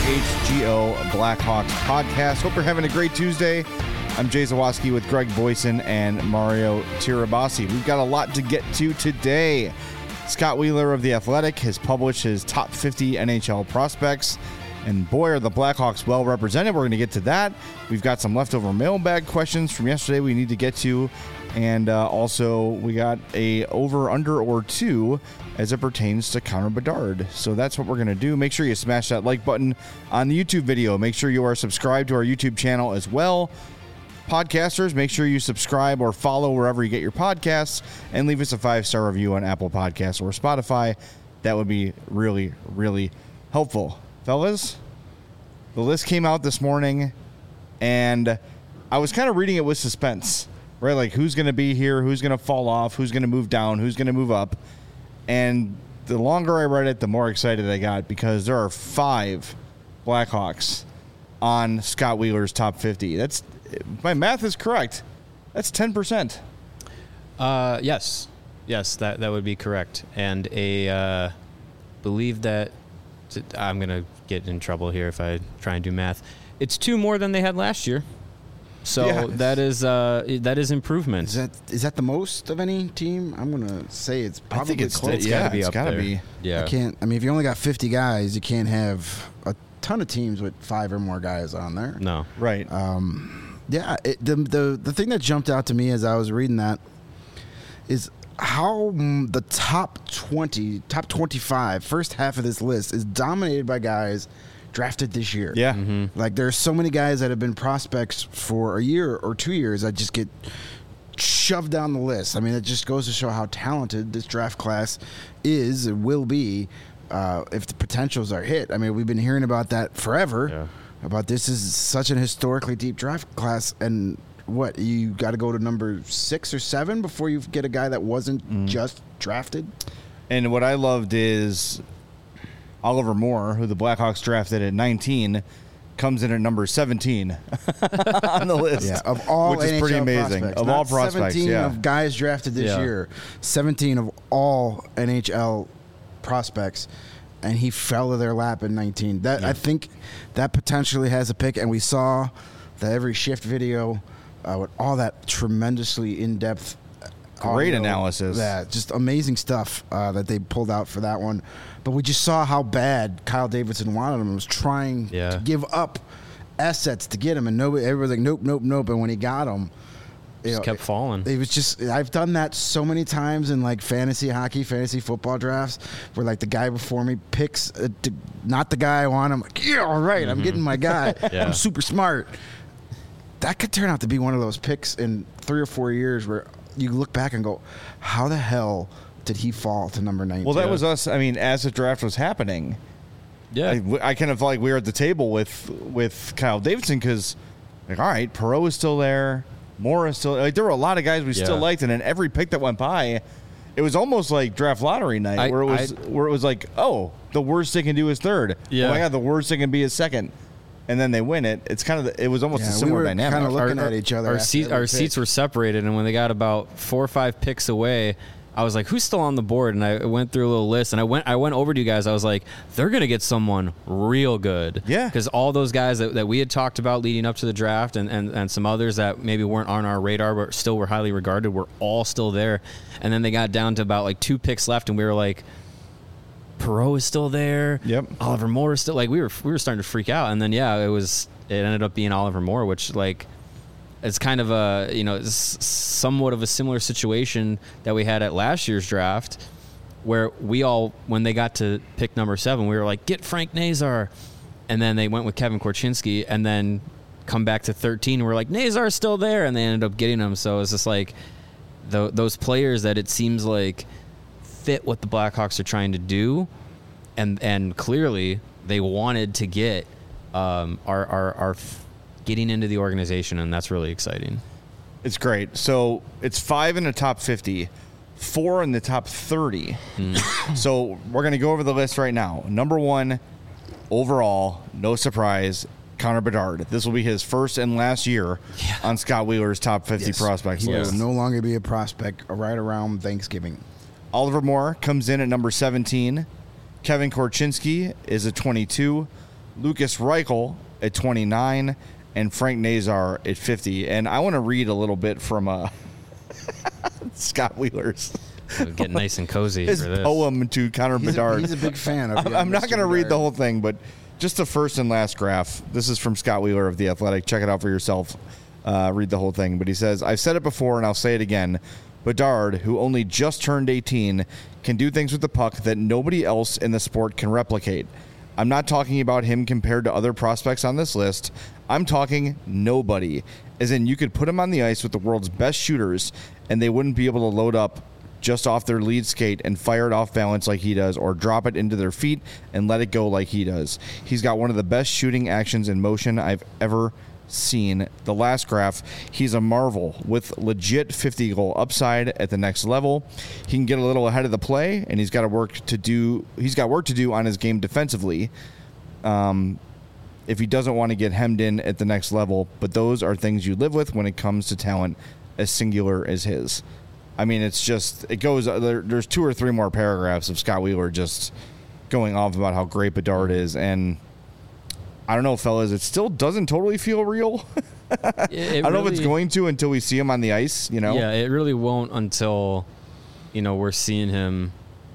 WHGO Blackhawks podcast. Hope you're having a great Tuesday. I'm Jay Zawaski with Greg Boyson and Mario Tirabassi. We've got a lot to get to today. Scott Wheeler of The Athletic has published his top 50 NHL prospects, and boy, are the Blackhawks well represented. We're going to get to that. We've got some leftover mailbag questions from yesterday we need to get to, and also we got a over, under, or two as it pertains to Connor Bedard. So that's what we're going to do. Make sure you smash that like button on the YouTube video. Make sure you are subscribed to our YouTube channel as well. Podcasters, make sure you subscribe or follow wherever you get your podcasts, and leave us a 5-star review on Apple Podcasts or Spotify. That would be really, really helpful. Fellas, the list came out this morning, and I was kind of reading it with suspense, right? Like, who's going to be here, who's going to fall off, who's going to move down, who's going to move up. And the longer I read it, the more excited I got, because there are 5 Blackhawks on Scott Wheeler's top 50. That's, my math is correct. That's 10%. Yes, that would be correct. And believe that I'm gonna get in trouble here if I try and do math. It's 2 more than they had last year. So yeah, that is improvement. Is that the most of any team? I'm gonna say it's probably close. It's gotta be up there. Yeah. If you only got 50 guys, you can't have a ton of teams with 5 or more guys on there. No. Right. The thing that jumped out to me as I was reading that is how the top 20, top 25, first half of this list is dominated by guys drafted this year. Yeah. Mm-hmm. Like, there's so many guys that have been prospects for a year or 2 years that just get shoved down the list. I mean, it just goes to show how talented this draft class is and will be if the potentials are hit. I mean, we've been hearing about that forever. Yeah. About this is such an historically deep draft class, and what, you got to go to number 6 or 7 before you get a guy that wasn't just drafted? And what I loved is Oliver Moore, who the Blackhawks drafted at 19, comes in at number 17 on the list. Yeah, of all which is NHL pretty amazing. Prospects. Of Not all prospects, 17 yeah. of guys drafted this year, 17 of all NHL prospects, and he fell to their lap at 19. I think that potentially has a pick, and we saw the every shift video with all that tremendously in-depth great audio. analysis. Yeah, just amazing stuff that they pulled out for that one. But we just saw how bad Kyle Davidson wanted him and was trying to give up assets to get him, and everybody's like, nope. And when he got him, Just kept falling. It was just, I've done that so many times in like fantasy hockey, fantasy football drafts, where like the guy before me picks not the guy I want. I'm like, yeah, all right, I'm getting my guy. I'm super smart. That could turn out to be one of those picks in 3 or 4 years where you look back and go, how the hell did he fall to number 19? Well, that was us. I mean, as the draft was happening, I kind of felt like we were at the table with Kyle Davidson, because, like, all right, Perreault is still there. Moore is still, like, there were a lot of guys we still liked, and then every pick that went by, it was almost like draft lottery night, where it was like, oh, the worst they can do is third. Yeah. Oh my God, the worst they can be is second, and then they win it. It's kind of it was almost a similar dynamic. Kind of looking at each other. Our seats were separated, and when they got about 4 or 5 picks away, I was like, who's still on the board? And I went through a little list, and I went over to you guys. I was like, they're going to get someone real good. Yeah. Because all those guys that we had talked about leading up to the draft, and some others that maybe weren't on our radar but still were highly regarded, were all still there. And then they got down to about like 2 picks left, and we were like, Perreault is still there. Yep. Oliver Moore is still, like, we were starting to freak out. And then, it ended up being Oliver Moore, which, like, it's kind of somewhat of a similar situation that we had at last year's draft, where when they got to pick number 7, we were like, get Frank Nazar. And then they went with Kevin Korchinski, and then come back to 13, and we're like, Nazar's still there. And they ended up getting him. So it's just like those players that it seems like fit what the Blackhawks are trying to do. And clearly they wanted to get are getting into the organization, and that's really exciting. It's great. So it's 5 in the top 50, 4 in the top 30. So we're going to go over the list right now. Number 1, overall, no surprise, Connor Bedard. This will be his first and last year on Scott Wheeler's top 50 prospects He list. will no longer be a prospect right around Thanksgiving. Oliver Moore comes in at number 17. Kevin Korchinski is a 22. Lucas Reichel at 29, and Frank Nazar at 50. And I want to read a little bit from Scott Wheeler's. Get nice and cozy his for this. poem to Connor Bedard. He's a big fan of I'm not going to read the Bedard. whole thing, but just the first and last graph. This is from Scott Wheeler of The Athletic. Check it out for yourself. Read the whole thing. But he says, I've said it before and I'll say it again. Bedard, who only just turned 18, can do things with the puck that nobody else in the sport can replicate. I'm not talking about him compared to other prospects on this list. I'm talking nobody. As in, you could put him on the ice with the world's best shooters, and they wouldn't be able to load up just off their lead skate and fire it off balance like he does, or drop it into their feet and let it go like he does. He's got one of the best shooting actions in motion I've ever seen. The last graph, he's a marvel with legit 50-goal upside at the next level. He can get a little ahead of the play, and he's got work to do on his game defensively. If he doesn't want to get hemmed in at the next level, but those are things you live with when it comes to talent as singular as his. I mean, it's just, it goes, there's 2 or 3 more paragraphs of Scott Wheeler just going off about how great Bedard is, and I don't know, fellas, it still doesn't totally feel real. I don't know if it's going to until we see him on the ice, you know? Yeah, it really won't until, we're seeing him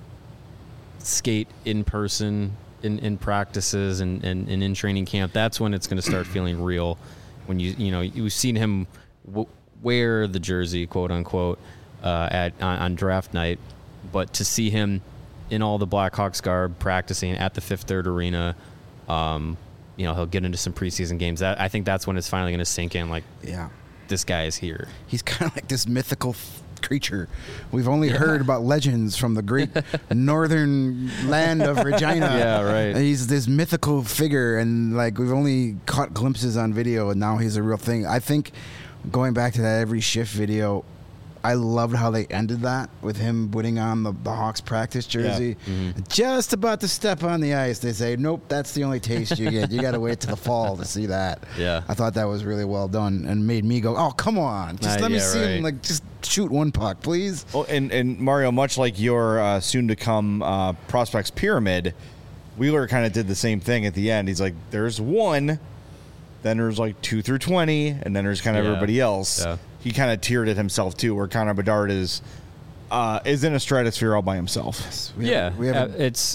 skate in person, in practices and in training camp. That's when it's going to start feeling real. When you've seen him wear the jersey, quote unquote, on draft night, but to see him in all the Blackhawks garb practicing at the Fifth Third Arena, he'll get into some preseason games. I think that's when it's finally going to sink in. Like, yeah, this guy is here. He's kind of like this mythical creature. We've only heard about legends from the great northern land of Regina. Yeah, right. He's this mythical figure, and like we've only caught glimpses on video, and now he's a real thing. I think going back to that every shift video, I loved how they ended that with him putting on the Hawks practice jersey. Yeah. Mm-hmm. Just about to step on the ice, they say, nope, that's the only taste you get. You got to wait till the fall to see that. Yeah. I thought that was really well done and made me go, oh, come on. Just let me see him, like, just shoot one puck, please. Oh, and Mario, much like your soon-to-come Prospects Pyramid, Wheeler kind of did the same thing at the end. He's like, there's 1, then there's like 2 through 20, and then there's kind of everybody else. Yeah. He kind of tiered it himself too, where Connor Bedard is in a stratosphere all by himself. Yes.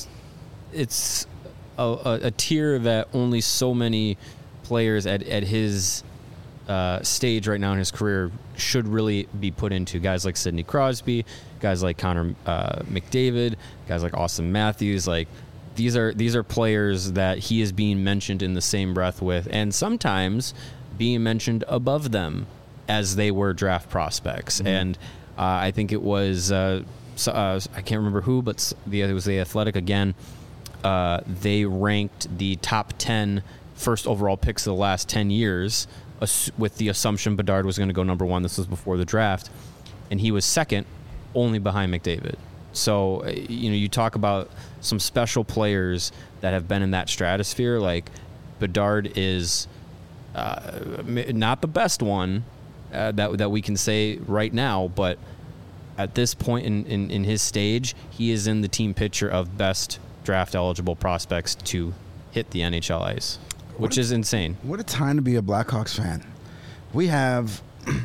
It's a tier that only so many players at his stage right now in his career should really be put into. Guys like Sidney Crosby, guys like Connor McDavid, guys like Austin Matthews. Like these are players that he is being mentioned in the same breath with, and sometimes being mentioned above them as they were draft prospects. Mm-hmm. And I think it was, I can't remember who, but it was The Athletic again. They ranked the top 10 first overall picks of the last 10 years with the assumption Bedard was going to go number 1. This was before the draft. And he was second, only behind McDavid. So, you talk about some special players that have been in that stratosphere. Like, Bedard is not the best one, that we can say right now, but at this point in his stage, he is in the team picture of best draft eligible prospects to hit the NHL ice, which is insane. What a time to be a Blackhawks fan. We have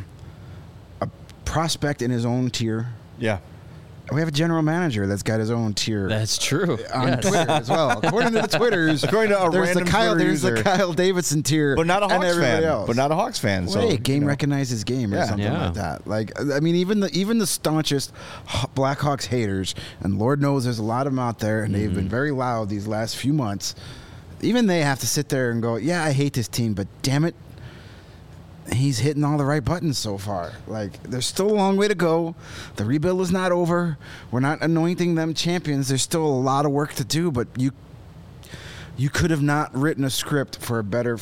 a prospect in his own tier. Yeah. We have a general manager that's got his own tier. That's true. On Twitter as well. According to the Twitters, according to there's the Kyle Davidson tier, but not a Hawks fan. Else. But not a Hawks fan. So hey, game recognizes game or something like that. Like, I mean, even the staunchest Blackhawks haters, and Lord knows there's a lot of them out there, and they've been very loud these last few months. Even they have to sit there and go, yeah, I hate this team, but damn it, he's hitting all the right buttons so far. Like, there's still a long way to go. The rebuild is not over. We're not anointing them champions. There's still a lot of work to do, but you could have not written a script for a better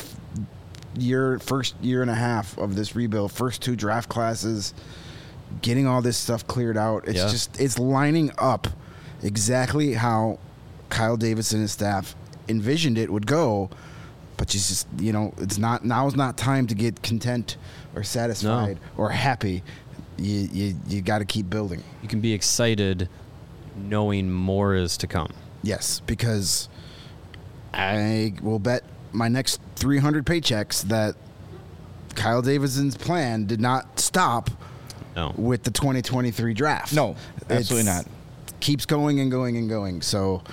first year and a half of this rebuild. First 2 draft classes, getting all this stuff cleared out. It's it's lining up exactly how Kyle Davidson and his staff envisioned it would go. But you just, it's not, now's not time to get content or satisfied or happy. You got to keep building. You can be excited knowing more is to come. Yes, because I will bet my next 300 paychecks that Kyle Davidson's plan did not stop with the 2023 draft. No, absolutely not. Keeps going and going and going. So,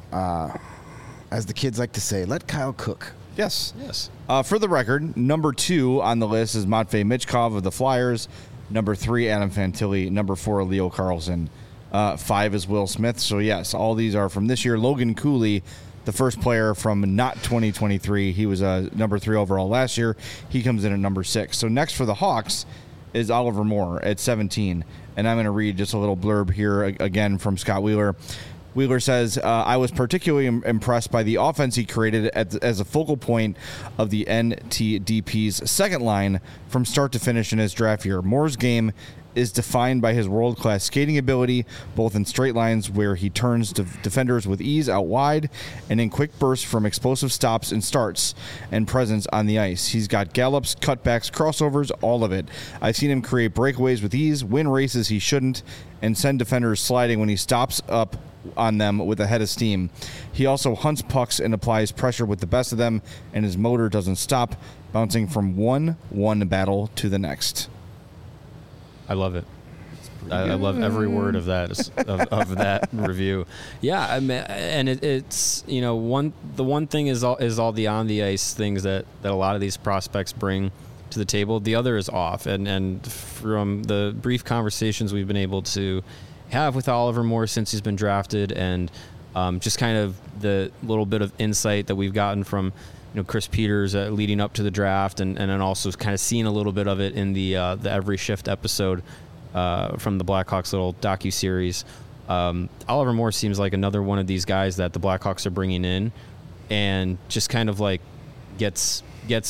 as the kids like to say, let Kyle cook. Yes. For the record, number 2 on the list is Matvei Michkov of the Flyers. Number 3, Adam Fantilli. Number 4, Leo Carlsson. 5 is Will Smith. So, yes, all these are from this year. Logan Cooley, the first player from not 2023. He was number 3 overall last year. He comes in at number 6. So, next for the Hawks is Oliver Moore at 17. And I'm going to read just a little blurb here again from Scott Wheeler. Wheeler says, I was particularly impressed by the offense he created as a focal point of the NTDP's second line from start to finish in his draft year. Moore's game is defined by his world-class skating ability, both in straight lines where he turns defenders with ease out wide and in quick bursts from explosive stops and starts and presence on the ice. He's got gallops, cutbacks, crossovers, all of it. I've seen him create breakaways with ease, win races he shouldn't, and send defenders sliding when he stops up on them with a head of steam. He also hunts pucks and applies pressure with the best of them, and his motor doesn't stop, bouncing from one battle to the next. I love it. I love every word of that of that review. Yeah, I mean, and it's the one thing is all the on the ice things that a lot of these prospects bring to the table. The other is off, and from the brief conversations we've been able to have with Oliver Moore since he's been drafted, and just kind of the little bit of insight that we've gotten from Chris Peters leading up to the draft, and then also kind of seeing a little bit of it in the Every Shift episode from the Blackhawks little docuseries. Oliver Moore seems like another one of these guys that the Blackhawks are bringing in, and just kind of like gets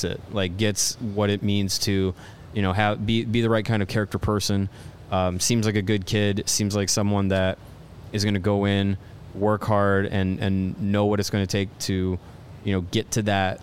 what it means to be the right kind of character person. Seems like a good kid. Seems like someone that is going to go in, work hard, and know what it's going to take to get to that,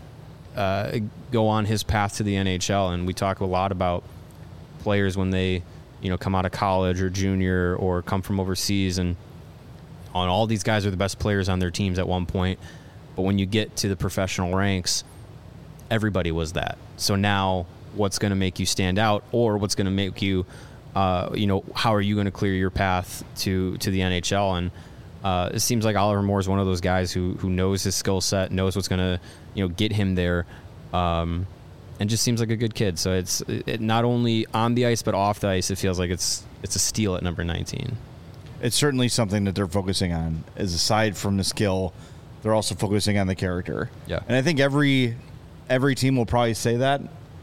go on his path to the NHL. And we talk a lot about players when they, come out of college or junior or come from overseas, and all these guys are the best players on their teams at one point. But when you get to the professional ranks, everybody was that. So now what's going to make you stand out, or what's going to make you, how are you going to clear your path to the NHL? And it seems like Oliver Moore is one of those guys who knows his skill set, knows what's going to get him there, and just seems like a good kid. So it's not only on the ice but off the ice. It feels like it's a steal at number 19. It's certainly something that they're focusing on. Is aside from the skill, they're also focusing on the character. Yeah, and I think every team will probably say that,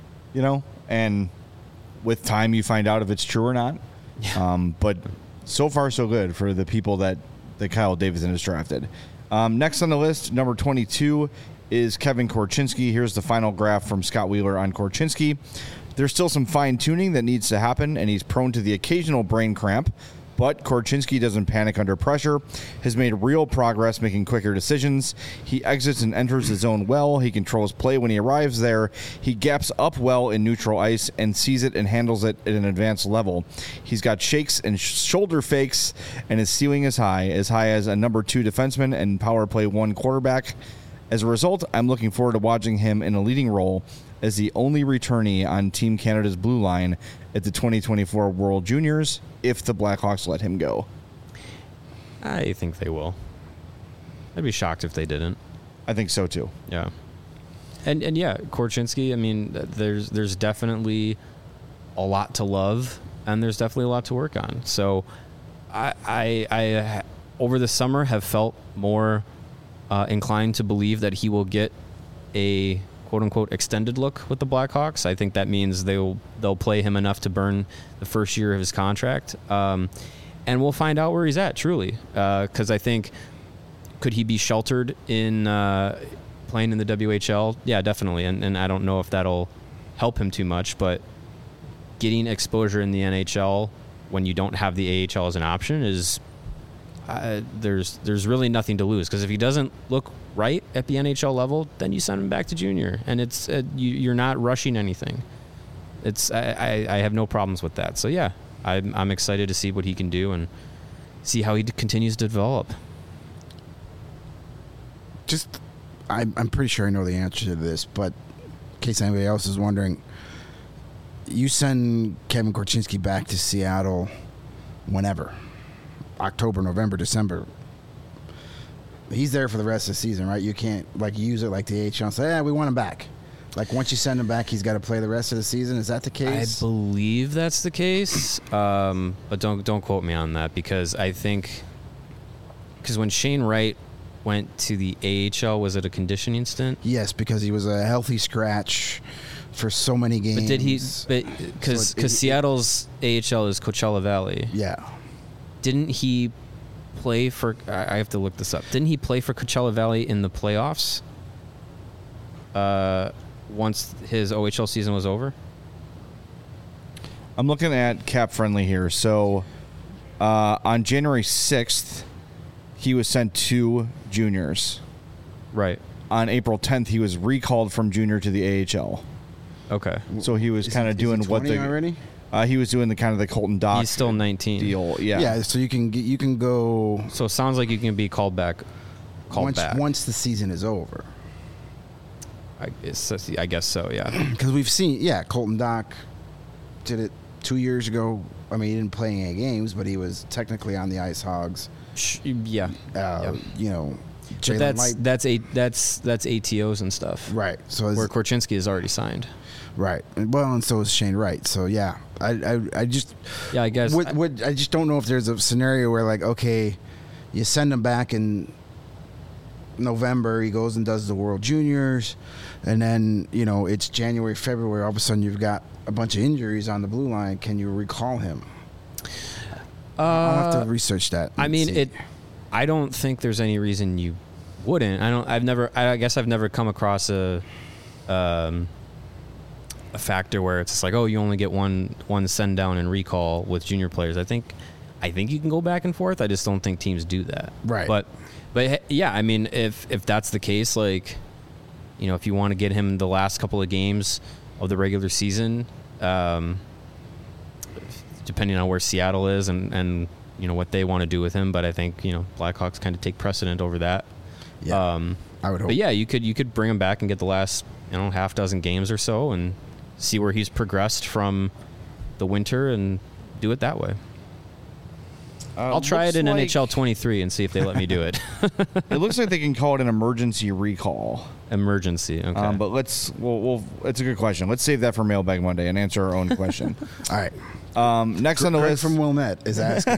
and with time you find out if it's true or not. Yeah. But so far so good for the people that Kyle Davidson has drafted. Next on the list, number 22, is Kevin Korchinski. Here's the final graph from Scott Wheeler on Korchinski. There's still some fine-tuning that needs to happen, and he's prone to the occasional brain cramp, but Korchinski doesn't panic under pressure, has made real progress making quicker decisions. He exits and enters the zone well. He controls play when he arrives there. He gaps up well in neutral ice and sees it and handles it at an advanced level. He's got shakes and shoulder fakes, and his ceiling is high as a number 2 defenseman and power play 1 quarterback. As a result, I'm looking forward to watching him in a leading role as the only returnee on Team Canada's blue line at the 2024 World Juniors, if the Blackhawks let him go. I think they will. I'd be shocked if they didn't. I think so too. Yeah. And yeah, Korchinski, I mean, there's definitely a lot to love, and there's definitely a lot to work on. So I over the summer have felt more inclined to believe that he will get a quote-unquote extended look with the Blackhawks. I think that means they'll play him enough to burn the first year of his contract. And we'll find out where he's at, truly. Because I think, could he be sheltered in playing in the WHL? Yeah, definitely. And I don't know if that'll help him too much, but getting exposure in the NHL when you don't have the AHL as an option is... there's really nothing to lose, because if he doesn't look right at the NHL level, then you send him back to junior, and it's you're not rushing anything. I have no problems with that. So yeah, I'm excited to see what he can do and see how he continues to develop. Just I'm pretty sure I know the answer to this, but in case anybody else is wondering, you send Kevin Korchinski back to Seattle whenever, October, November, December. He's there for the rest of the season, right? You can't use it like the AHL and say, "Yeah, we want him back." Like once you send him back, he's got to play the rest of the season. Is that the case? I believe that's the case, but don't quote me on that because I think when Shane Wright went to the AHL, was it a conditioning stint? Yes, because he was a healthy scratch for so many games. But did he? Because Seattle's AHL is Coachella Valley. Yeah. Didn't he play for? I have to look this up. Didn't he play for Coachella Valley in the playoffs? Once his OHL season was over. I'm looking at Cap Friendly here. So on January 6th, he was sent to juniors. Right. On April 10th, he was recalled from junior to the AHL. Okay. So he was kind of doing what the already. He was doing the kind of the Colton Dock. He's still 19. Deal. Yeah. Yeah. So you can go. So it sounds like you can be called back. Once the season is over. I guess so. Yeah. Because we've seen. Yeah, Colton Dock did it 2 years ago. I mean, he didn't play any games, but he was technically on the Ice Hogs. Yeah. You know. But that's ATOs and stuff. Right. So where Korchinski is already signed. Right. Well, and so is Shane Wright. So yeah, I just I guess I just don't know if there's a scenario where like, okay, you send him back in November, he goes and does the World Juniors, and then it's January, February, all of a sudden you've got a bunch of injuries on the blue line. Can you recall him? I'll have to research that. I mean, I don't think there's any reason you wouldn't. I guess I've never come across a factor where it's just like, oh, you only get one send down and recall with junior players. I think you can go back and forth. I just don't think teams do that. Right. But yeah, I mean, if that's the case, like, if you want to get him the last couple of games of the regular season, depending on where Seattle is and what they want to do with him, but I think Blackhawks kind of take precedent over that. Yeah, I would hope. But yeah, you could bring him back and get the last half dozen games or so and see where he's progressed from the winter and do it that way. I'll try it in NHL 23 and see if they let me do it. It looks like they can call it an emergency recall. Emergency, okay. But it's a good question. Let's save that for Mailbag Monday and answer our own question. All right. Next on the list from Wilmette is asking.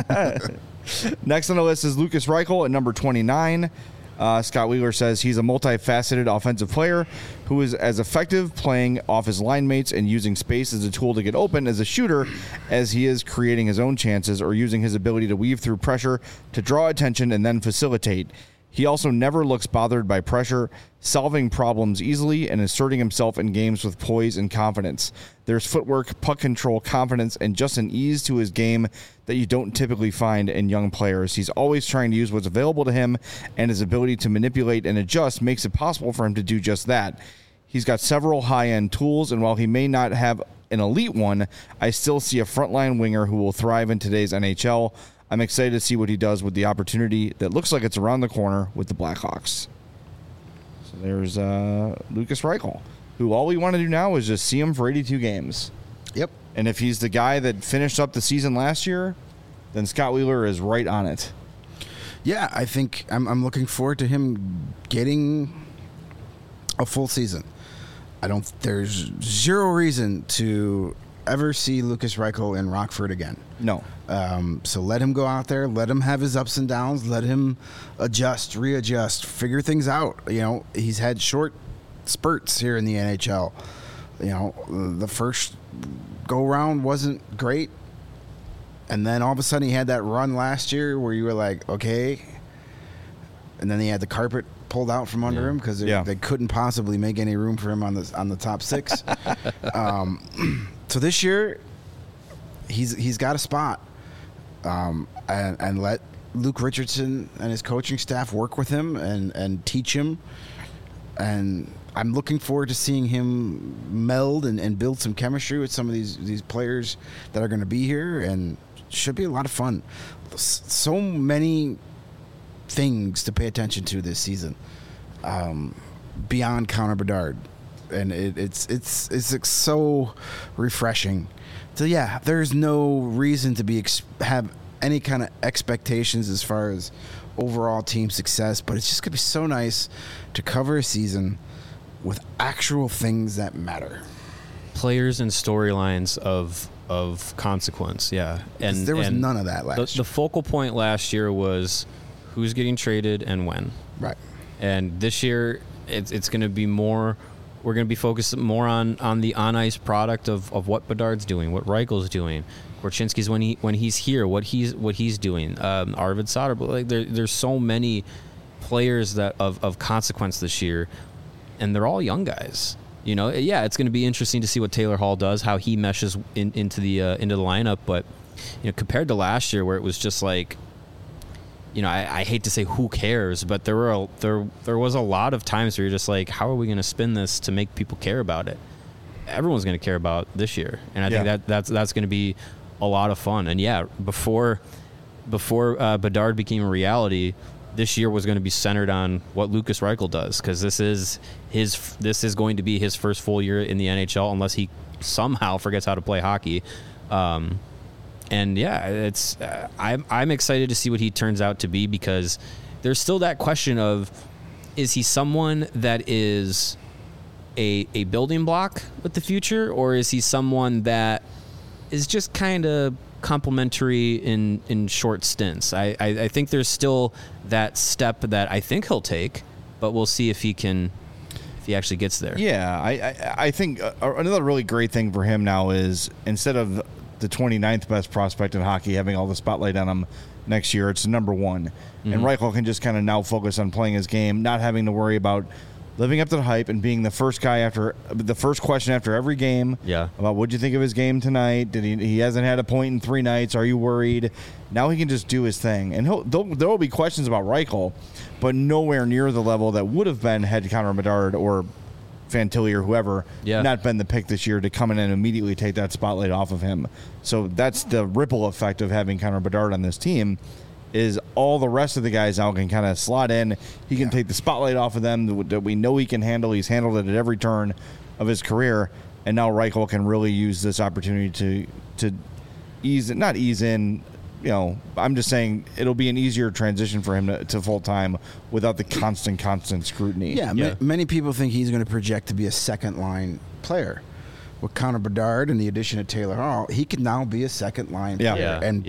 Next on the list is Lukas Reichel at number 29. Scott Wheeler says he's a multifaceted offensive player who is as effective playing off his line mates and using space as a tool to get open as a shooter as he is creating his own chances or using his ability to weave through pressure to draw attention and then facilitate. He also never looks bothered by pressure, solving problems easily and asserting himself in games with poise and confidence. There's footwork, puck control, confidence, and just an ease to his game that you don't typically find in young players. He's always trying to use what's available to him, and his ability to manipulate and adjust makes it possible for him to do just that. He's got several high-end tools, and while he may not have an elite one, I still see a frontline winger who will thrive in today's NHL. I'm excited to see what he does with the opportunity that looks like it's around the corner with the Blackhawks. So there's Lukas Reichel, who all we want to do now is just see him for 82 games. Yep. And if he's the guy that finished up the season last year, then Scott Wheeler is right on it. Yeah, I think I'm looking forward to him getting a full season. There's zero reason to ever see Lukas Reichel in Rockford again. No. So let him go out there, let him have his ups and downs, let him adjust, readjust, figure things out. He's had short spurts here in the NHL. The first go round wasn't great, and then all of a sudden he had that run last year where you were like, okay, and then he had the carpet pulled out from under him because they couldn't possibly make any room for him on the top six. So this year he's got a spot, and let Luke Richardson and his coaching staff work with him and teach him. And I'm looking forward to seeing him meld and build some chemistry with some of these players that are going to be here, and should be a lot of fun. So many things to pay attention to this season. beyond Connor Bedard, and it's so refreshing. So yeah, there's no reason to have any kind of expectations as far as overall team success, but it's just gonna be so nice to cover a season with actual things that matter, players and storylines of consequence. Yeah, and there was none of that last year. The focal point last year was who's getting traded and when. Right. And this year it's going to be more. We're going to be focused more on the on ice product of what Bedard's doing, what Reichel's doing, Korchinski's when he's here, what he's doing. Arvid Soderblom. Like there's so many players that of consequence this year, and they're all young guys. You know, yeah, it's going to be interesting to see what Taylor Hall does, how he meshes into the lineup. But you know, compared to last year, where it was just like, you know, I hate to say who cares, but there was a lot of times where you're just like, how are we going to spin this to make people care about it? Everyone's going to care about this year, and I think that's going to be a lot of fun. And yeah, before Bedard became a reality, this year was going to be centered on what Lukas Reichel does, because this is going to be his first full year in the NHL, unless he somehow forgets how to play hockey. And yeah, it's I'm excited to see what he turns out to be, because there's still that question of, is he someone that is a building block with the future, or is he someone that is just kind of complimentary in short stints? I think there's still that step that I think he'll take, but we'll see if he actually gets there. Yeah, I think another really great thing for him now is, instead of the 29th best prospect in hockey having all the spotlight on him next year, it's number one. Mm-hmm. And Reichel can just kind of now focus on playing his game, not having to worry about living up to the hype and being the first question after every game. Yeah. About what'd you think of his game tonight? Did he hasn't had a point in 3 nights? Are you worried? Now he can just do his thing, and there will be questions about Reichel, but nowhere near the level that would have been had Connor Bedard or Fantilli or whoever not been the pick this year to come in and immediately take that spotlight off of him. So that's the ripple effect of having Connor Bedard on this team, is all the rest of the guys now can kind of slot in. He can take the spotlight off of them that we know he can handle. He's handled it at every turn of his career, and now Reichel can really use this opportunity to ease in. You know, I'm just saying it'll be an easier transition for him to full-time without the constant scrutiny. Yeah. Many people think he's going to project to be a second-line player. With Connor Bedard and the addition of Taylor Hall, he could now be a second-line player and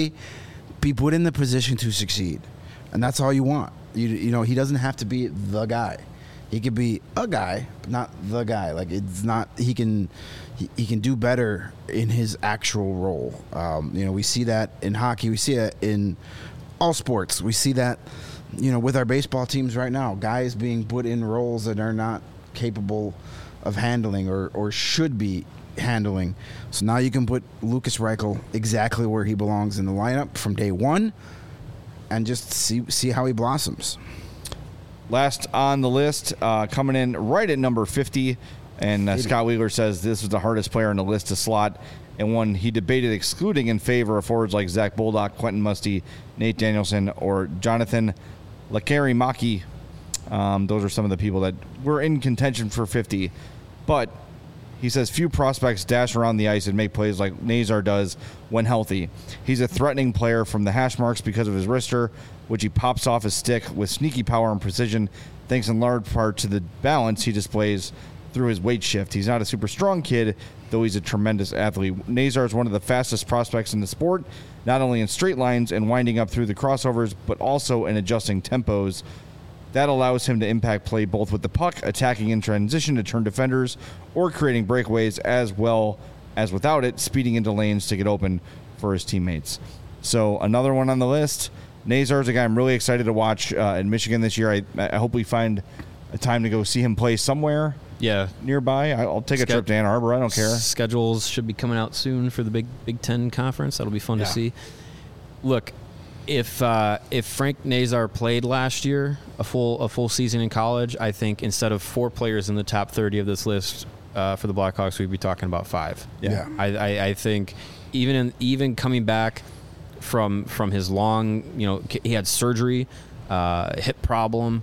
be put in the position to succeed. And that's all you want. You know, he doesn't have to be the guy. He could be a guy, but not the guy. Like, it's not, he can do better in his actual role. You know, we see that in hockey. We see it in all sports. We see that, you know, with our baseball teams right now, guys being put in roles that are not capable of handling or should be handling. So now you can put Lukas Reichel exactly where he belongs in the lineup from day one and just see how he blossoms. Last on the list, coming in right at number 50, and Scott Wheeler says this was the hardest player on the list to slot, and one he debated excluding in favor of forwards like Zach Bullock, Quentin Musty, Nate Danielson, or Jonathan Lekkerimäki. Those are some of the people that were in contention for 50. But he says few prospects dash around the ice and make plays like Nazar does when healthy. He's a threatening player from the hash marks because of his wrister, which he pops off his stick with sneaky power and precision, thanks in large part to the balance he displays through his weight shift. He's not a super strong kid, though he's a tremendous athlete. Nazar is one of the fastest prospects in the sport, not only in straight lines and winding up through the crossovers, but also in adjusting tempos. That allows him to impact play both with the puck, attacking in transition to turn defenders, or creating breakaways, as well as without it, speeding into lanes to get open for his teammates. So another one on the list. Nazar is a guy I'm really excited to watch in Michigan this year. I hope we find a time to go see him play somewhere nearby. I'll take a trip to Ann Arbor. I don't care. Schedules should be coming out soon for the Big Ten Conference. That'll be fun to see. Look, if Frank Nazar played last year a full season in college, I think instead of 4 players in the top 30 of this list for the Blackhawks, we'd be talking about 5. Yeah. I think even coming back from his long, you know, he had surgery, hip problem,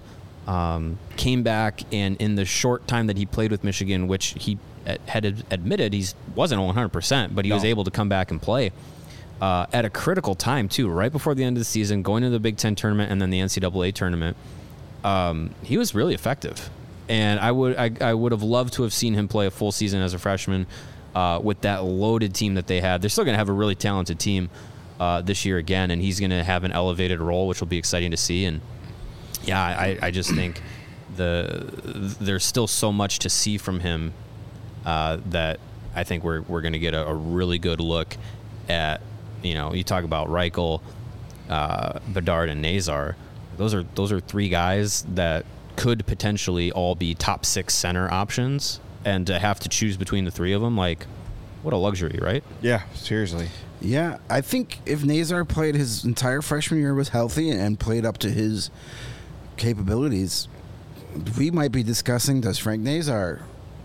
came back, and in the short time that he played with Michigan, which he had admitted he wasn't 100%, but he was able to come back and play at a critical time too, right before the end of the season, going to the Big Ten tournament and then the NCAA tournament. He was really effective, and I would have loved to have seen him play a full season as a freshman with that loaded team that they had. They're still going to have a really talented team this year again, and he's going to have an elevated role, which will be exciting to see. And yeah, I just think there's still so much to see from him that I think we're going to get a really good look at. You talk about Reichel, Bedard, and Nazar. Those are three guys that could potentially all be top 6 center options, and to have to choose between the three of them, like, what a luxury, right? Yeah, seriously. Yeah, I think if Nazar played his entire freshman year, was healthy, and played up to his capabilities, we might be discussing, does Frank Nazar,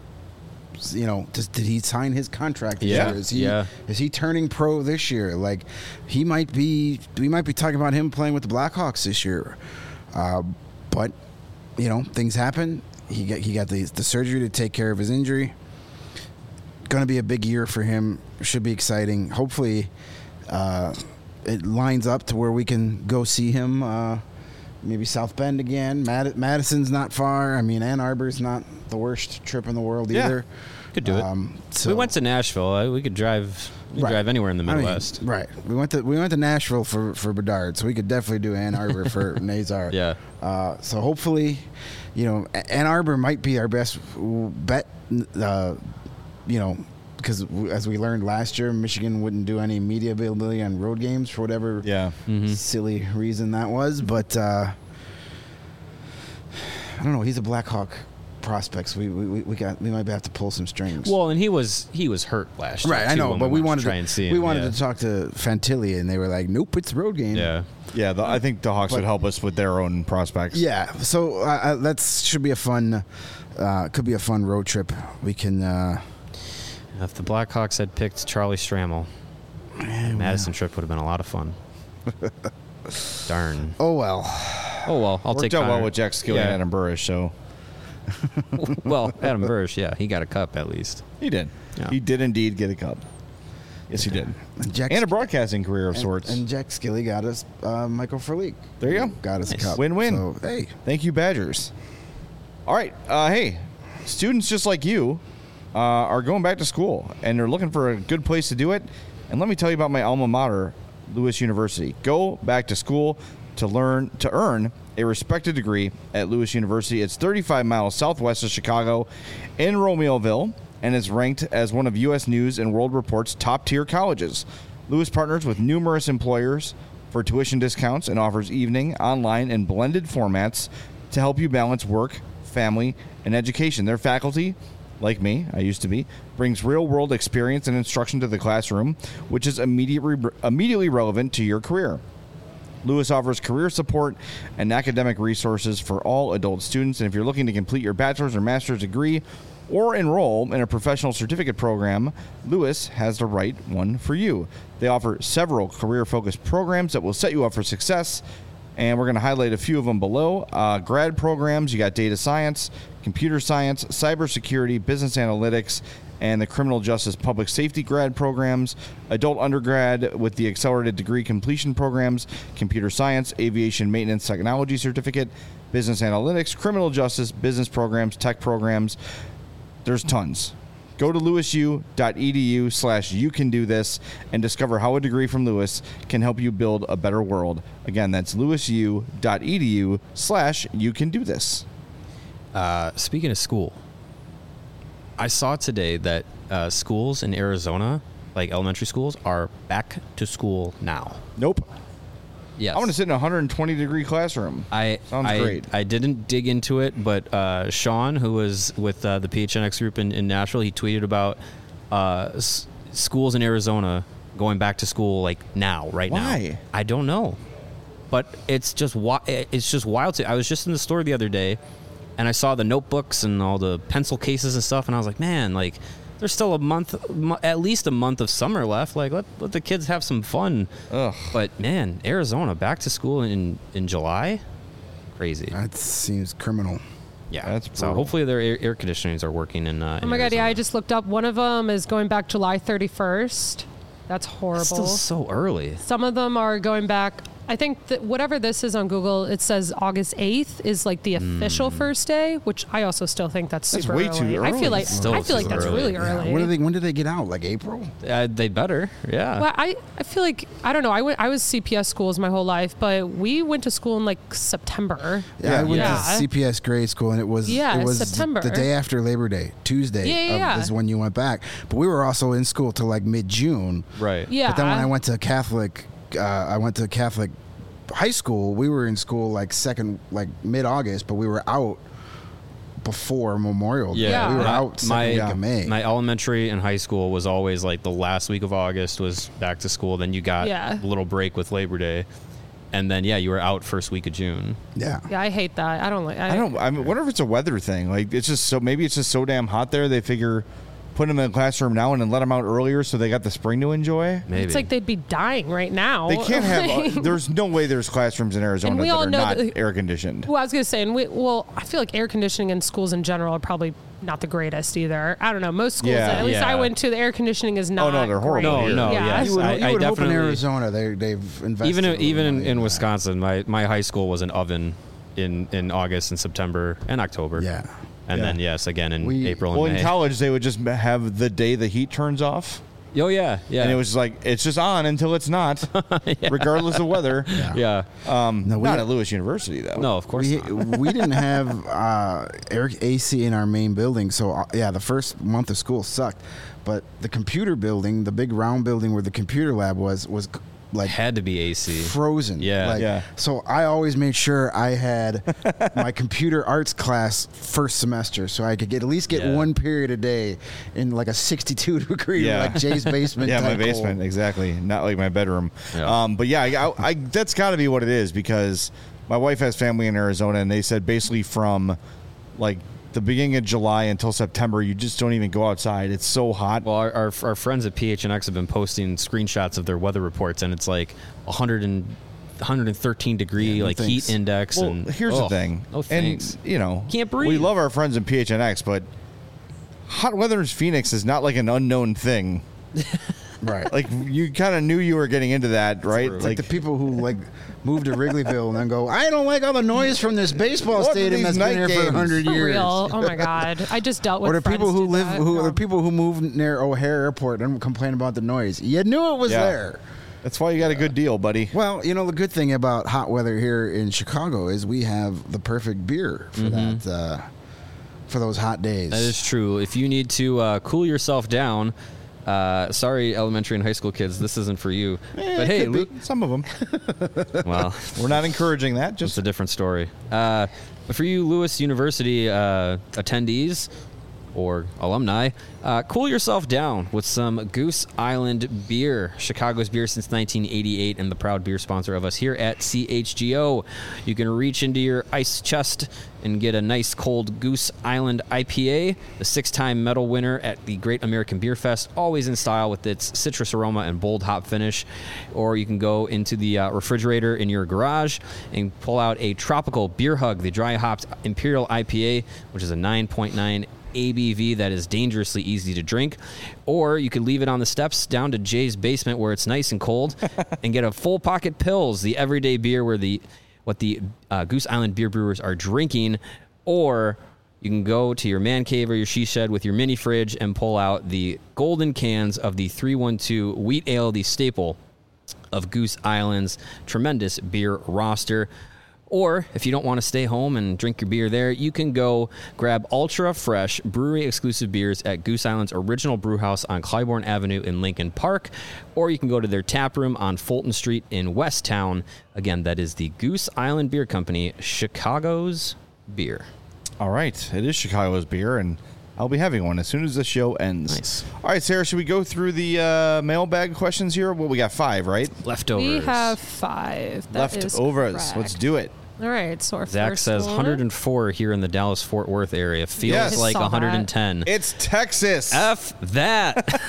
did he sign his contract this year? Is he turning pro this year? Like, we might be talking about him playing with the Blackhawks this year. But things happen. He got the surgery to take care of his injury. Going to be a big year for him. Should be exciting. Hopefully, it lines up to where we can go see him. Maybe South Bend again. Madison's not far. I mean, Ann Arbor's not the worst trip in the world either. Could do it. We went to Nashville. We could drive. Drive anywhere in the Midwest. Right. We went to Nashville for Bedard, so we could definitely do Ann Arbor for Nazar. Yeah. So hopefully, Ann Arbor might be our best bet. Because as we learned last year, Michigan wouldn't do any media availability on road games for whatever silly reason that was. But I don't know. He's a Blackhawk prospect. So we might have to pull some strings. Well, and he was hurt last year. Right, I know, but we wanted to try and see him. We wanted to talk to Fantilli, and they were like, "Nope, it's a road game." Yeah. Yeah, I think the Hawks would help us with their own prospects. Yeah, so that should be a fun, could be a fun road trip. We can. If the Blackhawks had picked Charlie Stramel, Madison trip would have been a lot of fun. Darn. Oh well. I'll take Worked out well with Jack Skilly and Adam Burrish, so. Well, Adam Burrish, he got a cup at least. He did. Yeah. He did indeed get a cup. Yes, he did. And a broadcasting career of sorts. And Jack Skilly got us Michael Furlick. There you go. Got us a cup. Win-win. So, hey. Thank you, Badgers. All right. Hey, students just like you are going back to school, and they're looking for a good place to do it. And let me tell you about my alma mater, Lewis University. Go back to school to earn a respected degree at Lewis University. It's 35 miles southwest of Chicago in Romeoville, and is ranked as one of U.S. News and World Report's top-tier colleges. Lewis partners with numerous employers for tuition discounts and offers evening, online, and blended formats to help you balance work, family, and education. Their faculty, like me, I used to be, brings real-world experience and instruction to the classroom, which is immediately relevant to your career. Lewis offers career support and academic resources for all adult students, and if you're looking to complete your bachelor's or master's degree or enroll in a professional certificate program, Lewis has the right one for you. They offer several career-focused programs that will set you up for success, and we're going to highlight a few of them below. Grad programs, you got data science, computer science, cybersecurity, business analytics, and the criminal justice public safety grad programs, adult undergrad with the accelerated degree completion programs, computer science, aviation maintenance technology certificate, business analytics, criminal justice, business programs, tech programs. There's tons. Go to lewisu.edu/youcandothis and discover how a degree from Lewis can help you build a better world. Again, that's lewisu.edu/youcandothis. Speaking of school, I saw today that schools in Arizona, like elementary schools, are back to school now. Nope. Yes. I want to sit in a 120-degree classroom. Sounds great. I didn't dig into it, but Sean, who was with the PHNX group in Nashville, he tweeted about schools in Arizona going back to school like now, right now. Why? I don't know, but it's just wild. I was just in the store the other day, and I saw the notebooks and all the pencil cases and stuff, and I was like, man, like, there's still at least a month of summer left. Like, let the kids have some fun. Ugh. But, man, Arizona, back to school in July? Crazy. That seems criminal. Yeah. That's so brutal. hopefully their air conditionings are working in Oh my God, yeah, I just looked up. One of them is going back July 31st. That's horrible. It's still so early. Some of them are going back. I think that whatever this is on Google, it says August 8th is like the official first day, which I also still think that's super way early. too I early. feel like Still I feel like too that's early. really Yeah. early. When do they get out? Like April? They better. Yeah. Well, I feel like I don't know. I was CPS schools my whole life, but we went to school in like September. Yeah, I went Yeah. to CPS grade school, and it was September. the day after Labor Day, Tuesday. Yeah. Is when you went back. But we were also in school till like mid-June. Right. Yeah. But then when I went to Catholic high school. We were in school like mid-August, but we were out before Memorial Day. Yeah. We were Yeah. out second week of May. My elementary and high school was always like the last week of August was back to school. Then you got Yeah. a little break with Labor Day. And then, you were out first week of June. Yeah. Yeah, I hate that. I don't like. I wonder if it's a weather thing. Like it's just maybe it's just so damn hot there. They figure put them in the classroom now and then let them out earlier so they got the spring to enjoy. Maybe. It's like they'd be dying right now. They can't have. There's no way there's classrooms in Arizona And we that all are know not that- air conditioned. Well, I was gonna say, I feel like air conditioning in schools in general are probably not the greatest either. I don't know. Most schools, Yeah. at least I Yeah. went to, the air conditioning is not. no, they're horrible great. here. No, yeah. yes. You would, I you would hope in definitely- Arizona they've invested even a little even money in that. Wisconsin, my high school was an oven in August and September and October. Yeah. And Yeah. then in We- April and Well, May. in college they would just have the day the heat turns off, Oh yeah, yeah. and it was like it's just on until it's not, regardless of weather. yeah. No, we Not at Lewis University though. No, of course we, not. we didn't have AC in our main building, so the first month of school sucked. But the computer building, the big round building where the computer lab was like Had to be AC. frozen. Yeah. Yeah. So I always made sure I had my computer arts class first semester, so I could at least get Yeah. one period a day in like a 62-degree, Yeah. like Jay's basement. Yeah, my type basement, cold. exactly. Not like my bedroom. Yeah. But yeah, I that's got to be what it is because my wife has family in Arizona, and they said basically from like the beginning of July until September, you just don't even go outside. It's so hot. Well, our friends at PHNX have been posting screenshots of their weather reports, and it's like 113 degree no like thanks. heat index. Well, and here's the thing. No thanks. And Can't breathe. we love our friends in PHNX, but hot weather in Phoenix is not like an unknown thing. Right. Like you kind of knew you were getting into that, right? It's like the people who like move to Wrigleyville and then go, I don't like all the noise from this baseball What are stadium these that's been night here for games? 100 For years. real. Oh my God. I just dealt with. Or the people friends who do live, that. the Yeah. people who move near O'Hare Airport and complain about the noise. You knew it was Yeah. there. That's why you got a good deal, buddy. Well, the good thing about hot weather here in Chicago is we have the perfect beer for that, for those hot days. That is true. If you need to cool yourself down, sorry, elementary and high school kids, this isn't for you. But hey, Luke, some of them. well, We're not encouraging that. it's Just a different story. But for you Lewis University attendees or alumni, cool yourself down with some Goose Island beer, Chicago's beer since 1988 and the proud beer sponsor of us here at CHGO. You can reach into your ice chest and get a nice cold Goose Island IPA, the 6-time medal winner at the Great American Beer Fest, always in style with its citrus aroma and bold hop finish. Or you can go into the refrigerator in your garage and pull out a tropical beer hug, the dry hopped Imperial IPA, which is a 9.9 ABV that is dangerously easy to drink. Or you could leave it on the steps down to Jay's basement where it's nice and cold and get a full pocket Pils, the everyday beer what the Goose Island beer brewers are drinking. Or you can go to your man cave or your she shed with your mini fridge and pull out the golden cans of the 312 wheat ale, the staple of Goose Island's tremendous beer roster. Or if you don't want to stay home and drink your beer there, you can go grab ultra fresh brewery exclusive beers at Goose Island's original brew house on Clybourne Avenue in Lincoln Park. Or you can go to their tap room on Fulton Street in Westtown. Again, that is the Goose Island Beer Company, Chicago's beer. all right. It is Chicago's beer, and I'll be having one as soon as the show ends. Nice. All right, Sarah, should we go through the mailbag questions here? Well, we got 5, right? Leftovers. We have 5. That is Leftovers. correct. Let's do it. All right. So our Zach first says one. 104 here in the Dallas-Fort Worth area. Feels Yes. like Saw that. 110. It's Texas. F that.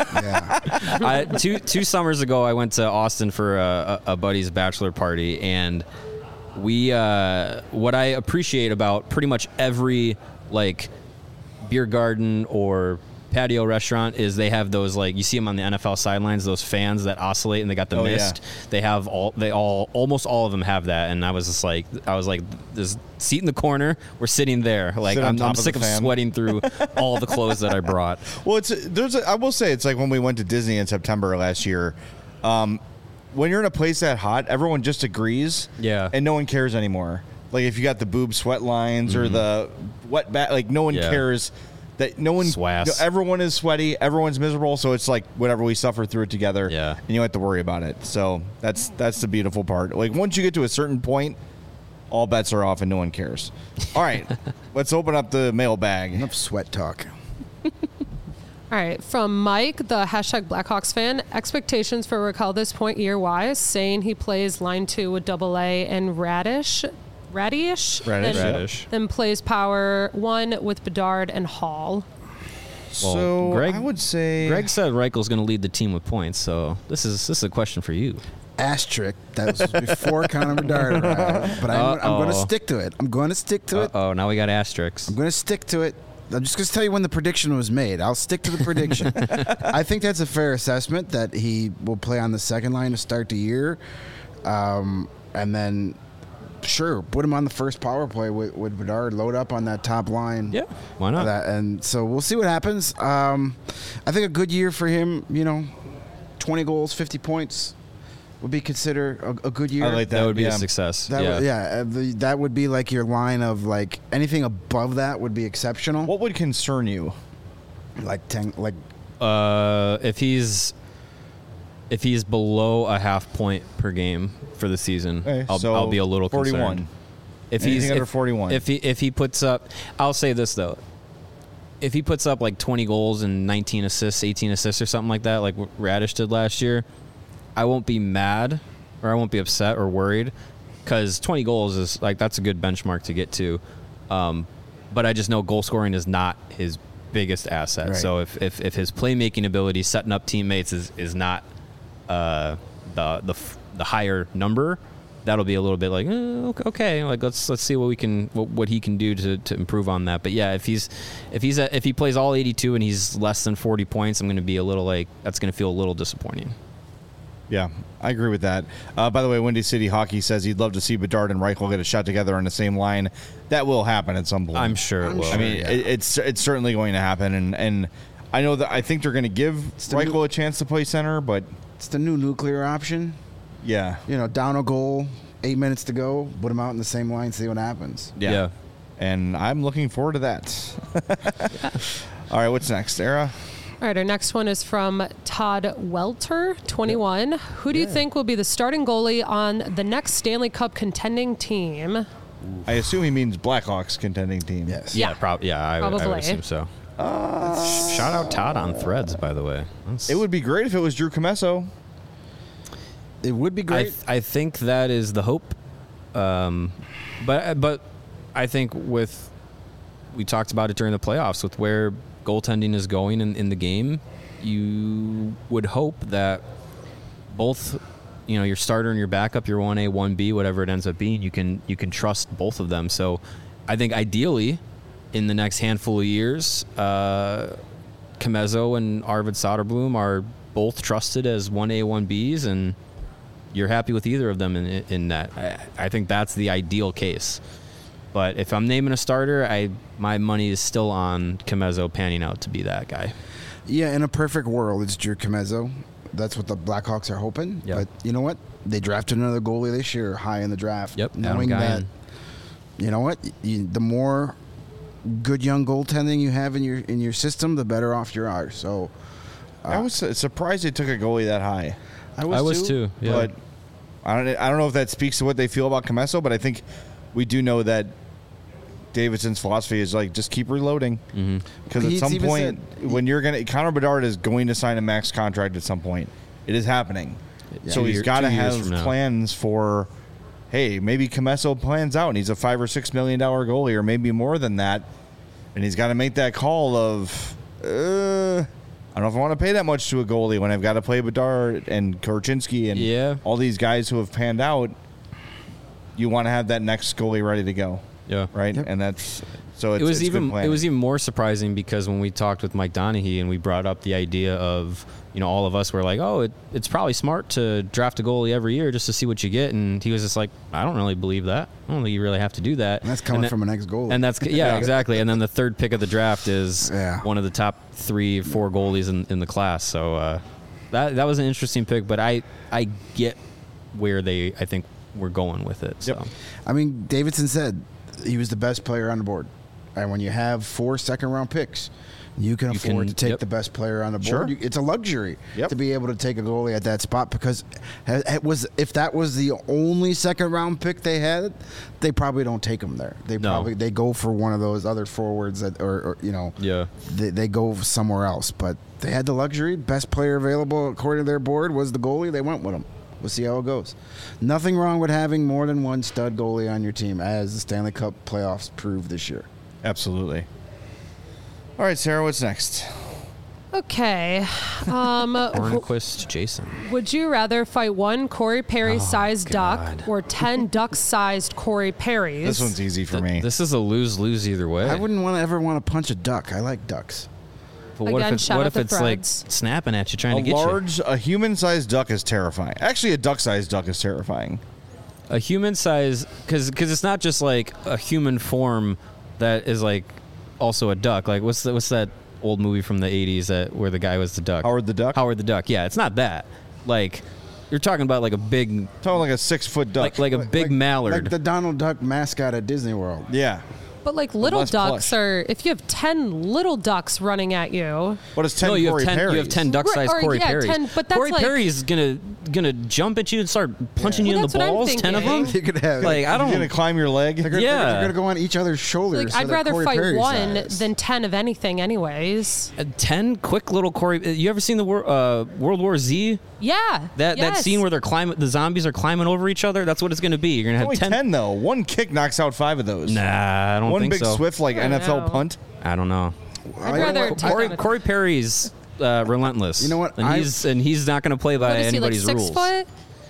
Yeah. Two summers ago, I went to Austin for a buddy's bachelor party, and what I appreciate about pretty much every like beer garden or patio restaurant is they have those, like, you see them on the NFL sidelines, those fans that oscillate, and they got the mist. Yeah. Almost all of them have that, and I was like, this seat in the corner, we're sitting there. Like, I'm sick of sweating through all the clothes that I brought. Well, I will say, it's like when we went to Disney in September last year. When you're in a place that hot, everyone just agrees. Yeah. And no one cares anymore. Like, if you got the boob sweat lines or the wet back, like, no one cares. That no one, everyone is sweaty, everyone's miserable, so it's like whatever, we suffer through it together, and you don't have to worry about it. So that's the beautiful part. Like, once you get to a certain point, all bets are off and no one cares. All right, let's open up the mailbag. Enough sweat talk. All right, from Mike, the hashtag Blackhawks fan, expectations for Raquel this point year-wise, saying he plays line 2 with AA and Radish. Then plays power 1 with Bedard and Hall. So Greg, I would say Greg said Reichel's going to lead the team with points. So this is a question for you. Asterisk. That was before Connor Bedard arrived, but I'm going to stick to it. Oh, now we got asterisks. I'm going to stick to it. I'm just going to tell you when the prediction was made. I'll stick to the prediction. I think that's a fair assessment that he will play on the second line to start the year, and then. Sure, put him on the first power play with Bedard, load up on that top line. Yeah, why not? And so we'll see what happens. I think a good year for him, 20 goals, 50 points would be considered a good year. I like that. That would be a success. That would be like your line of, like, anything above that would be exceptional. What would concern you? Like 10, like if he's below a half point per game for the season, I'll be a little 41. concerned. If Anything he's under 41. If he puts up, I'll say this though, if he puts up like 20 goals and 19 assists, 18 assists or something like that, like Radish did last year, I won't be mad or I won't be upset or worried, because 20 goals is like, that's a good benchmark to get to. But I just know goal scoring is not his biggest asset. Right. So if his playmaking ability, setting up teammates is not the higher number, that'll be a little bit like okay, like let's see what he can do to improve on that. But yeah, if he plays all 82 and he's less than 40 points, I'm going to be a little like, that's going to feel a little disappointing. Yeah, I agree with that. By the way, Windy City Hockey says he'd love to see Bedard and Reichel get a shot together on the same line. That will happen at some point. I'm sure it will. I mean, it's certainly going to happen, and I know that I think they're going to give Reichel a chance to play center, but it's the new nuclear option. Yeah. Down a goal, 8 minutes to go, put them out in the same line, see what happens. Yeah. And I'm looking forward to that. All right, what's next, Sarah? All right, our next one is from Todd Welter, 21. Who do you think will be the starting goalie on the next Stanley Cup contending team? I assume he means Blackhawks contending team. Yeah. I would assume so. Shout out Todd on Threads, by the way. It would be great if it was Drew Commesso. It would be great. I think that is the hope. But I think we talked about it during the playoffs, with where goaltending is going in the game, you would hope that both, your starter and your backup, your 1A, 1B, whatever it ends up being, you can trust both of them. So I think ideally in the next handful of years, Commesso and Arvid Soderblom are both trusted as 1A, 1Bs, and you're happy with either of them in that. I think that's the ideal case. But if I'm naming a starter, my money is still on Commesso panning out to be that guy. Yeah, in a perfect world, it's Drew Commesso. That's what the Blackhawks are hoping. Yep. But you know what? They drafted another goalie this year, high in the draft. Yep, knowing that, you know what? The more good young goaltending you have in your system, the better off you are. So I was surprised they took a goalie that high. I was too. Yeah. But I don't know if that speaks to what they feel about Commesso, but I think we do know that Davidson's philosophy is like, just keep reloading, because at some point when Connor Bedard is going to sign a max contract at some point, it is happening. Yeah. So he's got to have plans for, hey, maybe Commesso plans out and he's a $5 or $6 million goalie, or maybe more than that, and he's got to make that call of, I don't know if I want to pay that much to a goalie when I've got to play Bedard and Korchinski and all these guys who have panned out. you want to have that next goalie ready to go. Yeah. Right. Yep. And that's so. It's, It was it's good even planning. more surprising because when we talked with Mike Donaghy and we brought up the idea of, all of us were like, oh, it's probably smart to draft a goalie every year just to see what you get, and he was just like, I don't really believe that. I don't think you really have to do that. And that's coming from an ex-goalie. And that's exactly. And then the third pick of the draft is one of the top 3-4 goalies in the class. So that was an interesting pick, but I get where I think we're going with it. So. Yep. I mean, Davidson said he was the best player on the board. And when you have 4 second-round picks, you can afford to take the best player on the board. Sure. It's a luxury Yep. to be able to take a goalie at that spot because if that was the only second-round pick they had, they probably don't take him there. They go for one of those other forwards that, they go somewhere else. But they had the luxury. Best player available according to their board was the goalie. They went with him. We'll see how it goes. Nothing wrong with having more than one stud goalie on your team, as the Stanley Cup playoffs proved this year. Absolutely. All right, Sarah, what's next? Okay. Hornquist Jason. Would you rather fight one Corey Perry-sized duck or 10 duck-sized Corey Perrys? This one's easy for me. This is a lose-lose either way. I wouldn't ever want to punch a duck. I like ducks. But what Again, if shout out the it's like Threads. snapping at you, trying to get you? A human-sized duck is terrifying. Actually, a duck-sized duck is terrifying. A human size, because it's not just like a human form that is like also a duck. Like what's that old movie from the 80s where the guy was the duck? Howard the Duck? Howard the Duck. Yeah, it's not that. Like you're talking about like a big, Talking like a 6-foot duck. like a big mallard. Like the Donald Duck mascot at Disney World. yeah. But like little less ducks plush. are, if you have 10 little ducks running at you, What is 10 no, you Corey have 10. Perrys? You have 10 duck-sized Right, or, Corey yeah, Perrys. 10, but that's Corey like- Perry is gonna jump at you and start punching you Well, in the that's what I'm balls. 10 of them. thinking. You could have Like I You're going to don't. climb your leg? They're Yeah. going to go on each other's shoulders. like so I'd they're rather Corey fight Perry one size. than 10 of anything anyways. 10 quick little Corey. You ever seen the World War Z? Yeah. That yes. scene where the zombies are climbing over each other. That's what it's going to be. You're going to Only have 10, though. One kick knocks out 5 of those. Nah, I don't One think big so. swift like I don't NFL know. punt. I don't know. I'd rather take on a- Corey Perry's relentless. You know what? And he's not going to play by What is he, like anybody's 6 rules. foot?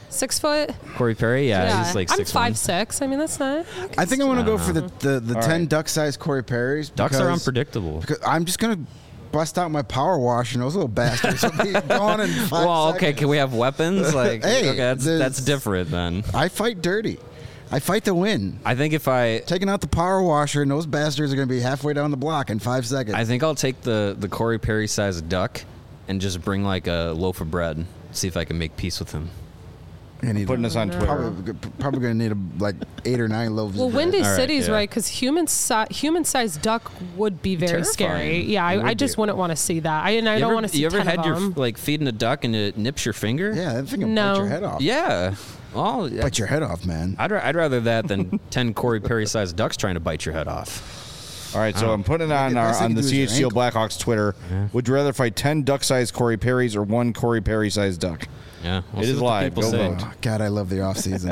6 foot? Corey Perry, yeah, he's like I'm 6'1". 5'6". I mean, that's not. I think I want to go for the 10 right. duck-sized Corey Perrys. Ducks are because- unpredictable. Because I'm just going to bust out my power wash and those little bastards will be gone in 5 Well, okay, seconds. can we have weapons? Like, Hey, okay, that's different then. I fight dirty. I fight to win. I think if I Taking out the power washer and those bastards are going to be halfway down the block in 5 seconds. I think I'll take the Corey Perry sized duck and just bring like a loaf of bread. See if I can make peace with him. You need Putting us on Twitter. probably going to need like 8 or 9 loaves. Well, of bread. Windy All right, City's yeah. right because human-sized duck would be very Terrifying. scary. Yeah, I just wouldn't want to see that. I don't want to see You ever 10 had of your them. like feeding a duck and it nips your finger? Yeah, that thing will No. bite your head off. Yeah. Well, Bite your head off, man. I'd rather that than 10 Corey Perry sized ducks trying to bite your head off. All right, so I'm putting it on The best on thing the to do is your CHCO Blackhawks Twitter. Would you rather fight 10 duck-sized Corey Perrys or one Corey Perry-sized duck? Yeah. We'll It see is what the live. people Go say. vote. Oh, God, I love the off season.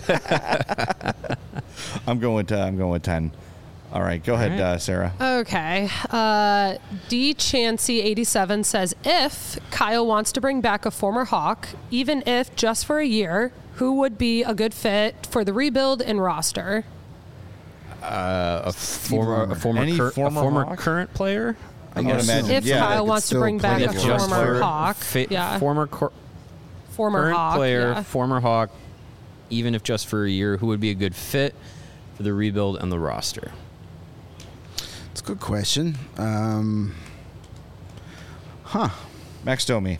I'm going with 10. All right, go ahead, right. Sarah. Okay. D Chansey 87 says if Kyle wants to bring back a former Hawk, even if just for a year, who would be a good fit for the rebuild and roster? A former Any former Hawk? current player. I would guess so. imagine. If yeah, Kyle could wants to still bring back play a for just former for Hawk, yeah, former former current Hawk player, yeah. former Hawk, even if just for a year, who would be a good fit for the rebuild and the roster? It's a good question. Max Domi.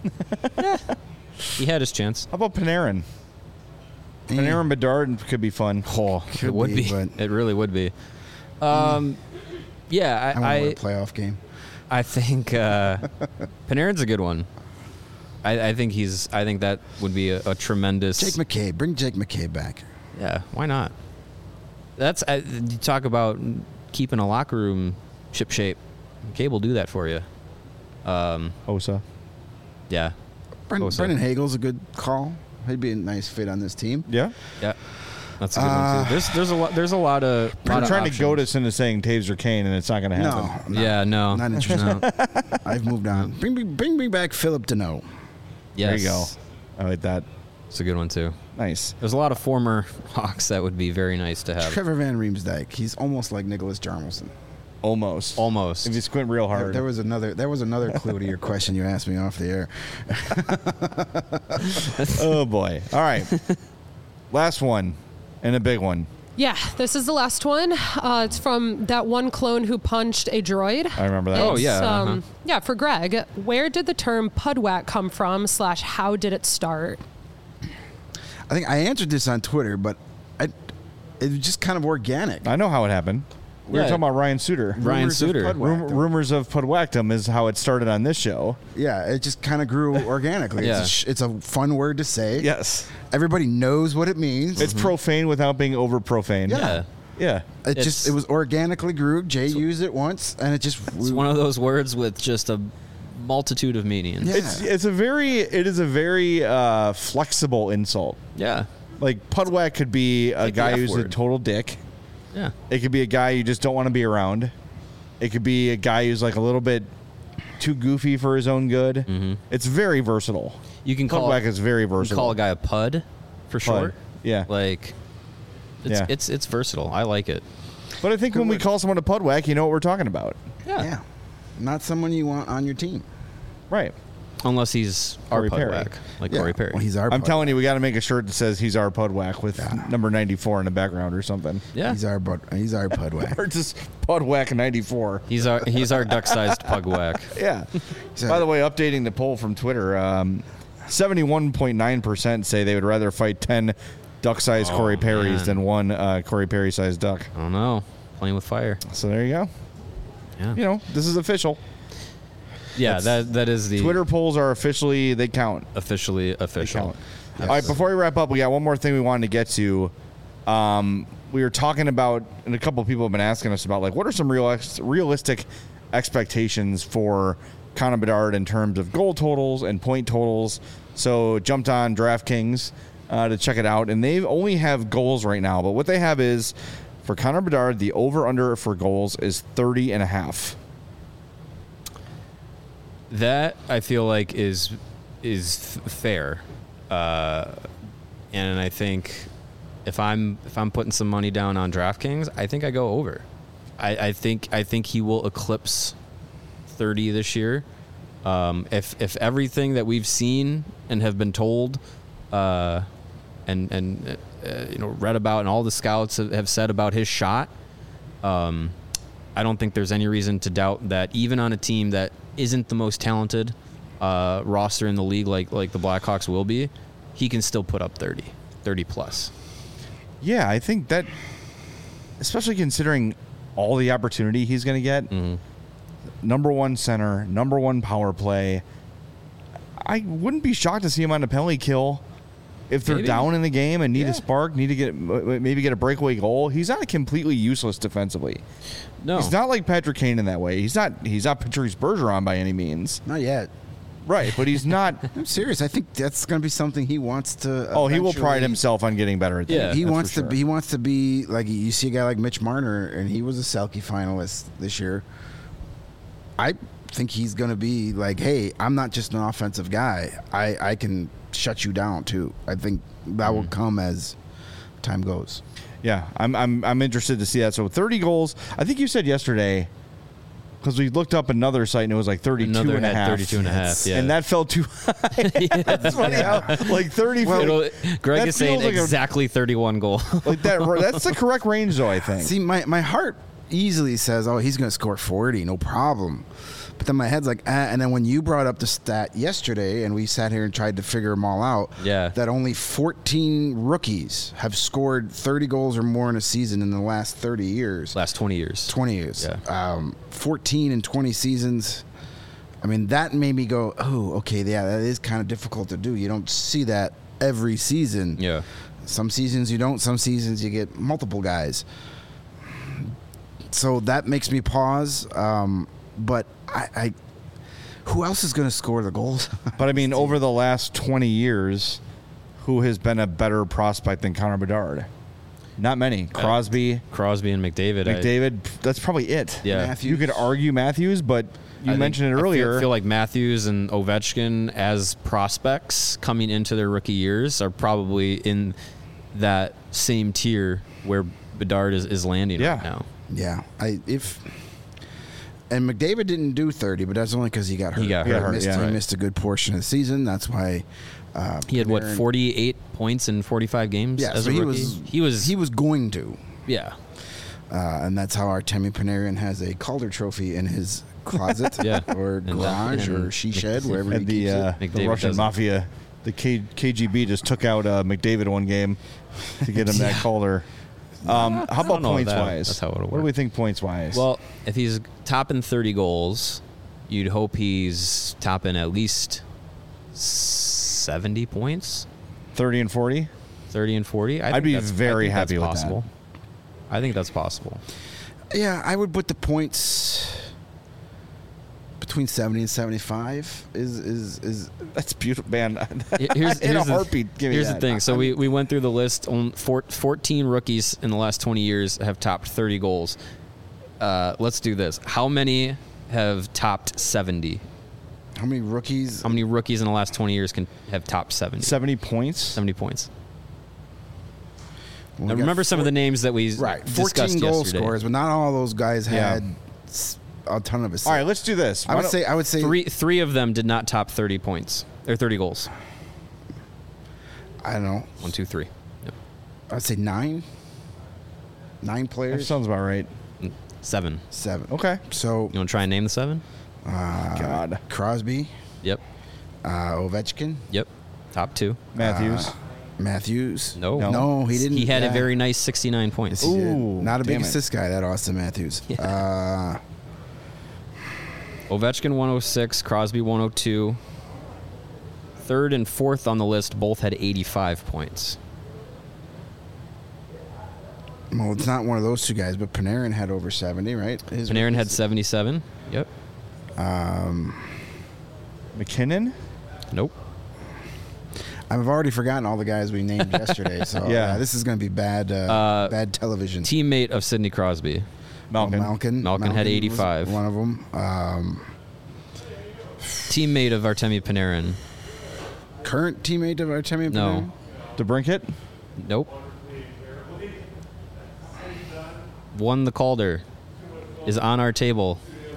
He had his chance. How about Panarin? Panarin Bedard could be fun. Oh, Could it would be, be. but- It really would be. Yeah, I want to win a playoff game. I think Panarin's a good one. I think that would be a tremendous. Jake McKay. Bring Jake McKay back. Yeah, why not? That's you talk about keeping a locker room ship shape. McKay will do that for you. Osa. Yeah, Bosa. Brendan Hagel's a good call. He'd be a nice fit on this team. Yeah. yeah, that's a good one too. There's a lot of. I'm trying to options. goad us into saying Taves or Kane, and it's not going to No, happen. I'm not, Yeah, no, not interested. No. I've moved on. Bring me back Philip Deneau. Yes. There you go. I like that. It's a good one, too. Nice. There's a lot of former Hawks that would be very nice to have. Trevor Van Riemsdyk. He's almost like Nicholas Jarmelson. Almost. Almost. If you squint real hard. There was another clue to your question you asked me off the air. Oh, boy. All right. Last one, and a big one. Yeah, this is the last one. It's from that one clone who punched a droid. I remember that. Oh, yeah. Yeah, for Greg, where did the term pudwhack come from / how did it start? I think I answered this on Twitter, but it was just kind of organic. I know how it happened. We were Yeah. talking about Ryan Suter. Ryan Rumors of Suter. Pudwhackdom. Rumors of Pudwhackdom is how it started on this show. Yeah, it just kind of grew organically. Yeah. It's a fun word to say. Yes. Everybody knows what it means. It's profane without being over profane. Yeah. Yeah. It was organically grew. Jay used it once, and it just It's one of those words with just a multitude of meanings. Yeah. It is a very flexible insult. Yeah. Like Pudwhack could be a Like the guy F who's a word. total dick. Yeah. It could be a guy you just don't want to be around. It could be a guy who's like a little bit too goofy for his own good. Mm-hmm. It's very versatile. You can call Pudwhack is very you can versatile. call a guy a pud for short. Yeah. Like Yeah. it's versatile. I like it. But I think when we word. call someone a Pudwhack, you know what we're talking about. yeah, not someone you want on your team. Right. Unless he's Corey our Perry. Pudwhack, like Yeah, Corey Perry. well, he's our. I'm telling you, we got to make a shirt that says he's our Pudwhack with number 94 in the background or something. yeah. He's our Pudwhack. Or just Pudwhack 94. He's our duck-sized pugwhack. Yeah. So- By the way, updating the poll from Twitter, 71.9% say they would rather fight 10 duck-sized Corey Perrys man. than one Corey Perry-sized duck. I don't know. Playing with fire. So there you go. Yeah. You know, this is official. Yeah, that is the Twitter polls are officially, they count. officially They official. count. All right, before we wrap up, we got one more thing we wanted to get to. We were talking about, and a couple of people have been asking us about, like, what are some realistic expectations for Connor Bedard in terms of goal totals and point totals? So jumped on DraftKings to check it out, and they only have goals right now. But what they have is, for Connor Bedard, the over-under for goals is 30.5. That I feel like is fair, and I think if I'm putting some money down on DraftKings, I think I go over. I think he will eclipse 30 this year. If everything that we've seen and have been told, and read about, and all the scouts have said about his shot, I don't think there's any reason to doubt that even on a team that isn't the most talented roster in the league like the Blackhawks will be, he can still put up 30 plus. Yeah, I think that, especially considering all the opportunity he's going to get, number one center, number one power play, I wouldn't be shocked to see him on a penalty kill if they're Maybe. down in the game and need Yeah. a spark, need to maybe get a breakaway goal. He's not completely useless defensively. No, He's not like Patrick Kane in that way. He's not Patrice Bergeron by any means. Not yet. Right, but he's not. I'm serious. I think that's going to be something he wants to. Oh, he will pride eventually- himself on getting better at that. Yeah. He That's wants for to. sure. He wants to be like you see a guy like Mitch Marner, and he was a Selke finalist this year. I think he's going to be like, hey, I'm not just an offensive guy. I can shut you down too. I think that will come as time goes. Yeah, I'm interested to see that. So 30 goals. I think you said yesterday, because we looked up another site and it was like 32 another and a had half. 32 and a half. Yeah, And that fell too high. That's funny how like 30. Greg that is saying feels like exactly 31 goal. like that. That's the correct range, though. I think. See, my heart easily says, oh, he's going to score 40, no problem. But then my head's like, and then when you brought up the stat yesterday and we sat here and tried to figure them all out, Yeah. that only 14 rookies have scored 30 goals or more in a season in the last 30 years. Last 20 years. 20 years. Yeah. 14 and 20 seasons. I mean, that made me go, oh, okay, yeah, that is kind of difficult to do. You don't see that every season. Yeah. Some seasons you don't. Some seasons you get multiple guys. So that makes me pause. But I who else is going to score the goals? But I mean, over the last 20 years, who has been a better prospect than Connor Bedard? Not many. Crosby, Crosby and McDavid. McDavid. That's probably it. Yeah. Matthews. You could argue Matthews, but you mentioned it earlier. I feel like Matthews and Ovechkin as prospects coming into their rookie years are probably in that same tier where Bedard is landing right now. Yeah. And McDavid didn't do 30, but that's only because he got hurt. He got hurt. He missed a good portion of the season. That's why he had 48 points in 45 games as a rookie. He was going to. Yeah. And that's how Artemi Panarin has a Calder trophy in his closet or garage or she shed, wherever he keeps it. The Russian mafia, the KGB just took out McDavid one game to get him that Calder. How about points-wise? That's how it would work. What do we think points-wise? Well, if he's topping 30 goals, you'd hope he's topping at least 70 points. 30 and 40? 30 and 40. I'd be very happy with that. I think that's possible. Yeah, I would put the points between 70 and 75 is that's beautiful, man. Here's a heartbeat. Here's the thing. So we went through the list. 14 rookies in the last 20 years have topped 30 goals. Let's do this. How many have topped 70? How many rookies? How many rookies in the last 20 years can have topped 70? 70 points? 70 points. Well, now remember some of the names that we discussed 14 goal yesterday. scorers, but not all those guys had a ton of assists. All right, let's do this. I would say three of them did not top 30 points or 30 goals. I don't know. 1, 2, 3. Yep. I'd say 9. 9 players. That sounds about right. 7. Okay. So you want to try and name the 7? God. Crosby. Yep. Ovechkin. Yep. Top 2. Matthews. No, he didn't. He had a very nice 69 points. Yes, not a big assist guy, that Austin Matthews. Yeah. Ovechkin 106, Crosby 102. Third and fourth on the list both had 85 points. Well, it's not one of those two guys, but Panarin had over 70, right? Panarin had 77. Yep. McKinnon? Nope. I've already forgotten all the guys we named yesterday, so this is going to be bad television. Teammate of Sidney Crosby. Malkin had 85. One of them. Teammate of Artemi Panarin. Current teammate of Artemi Panarin? No. DeBrincat? Nope. Won the Calder. Is on our table.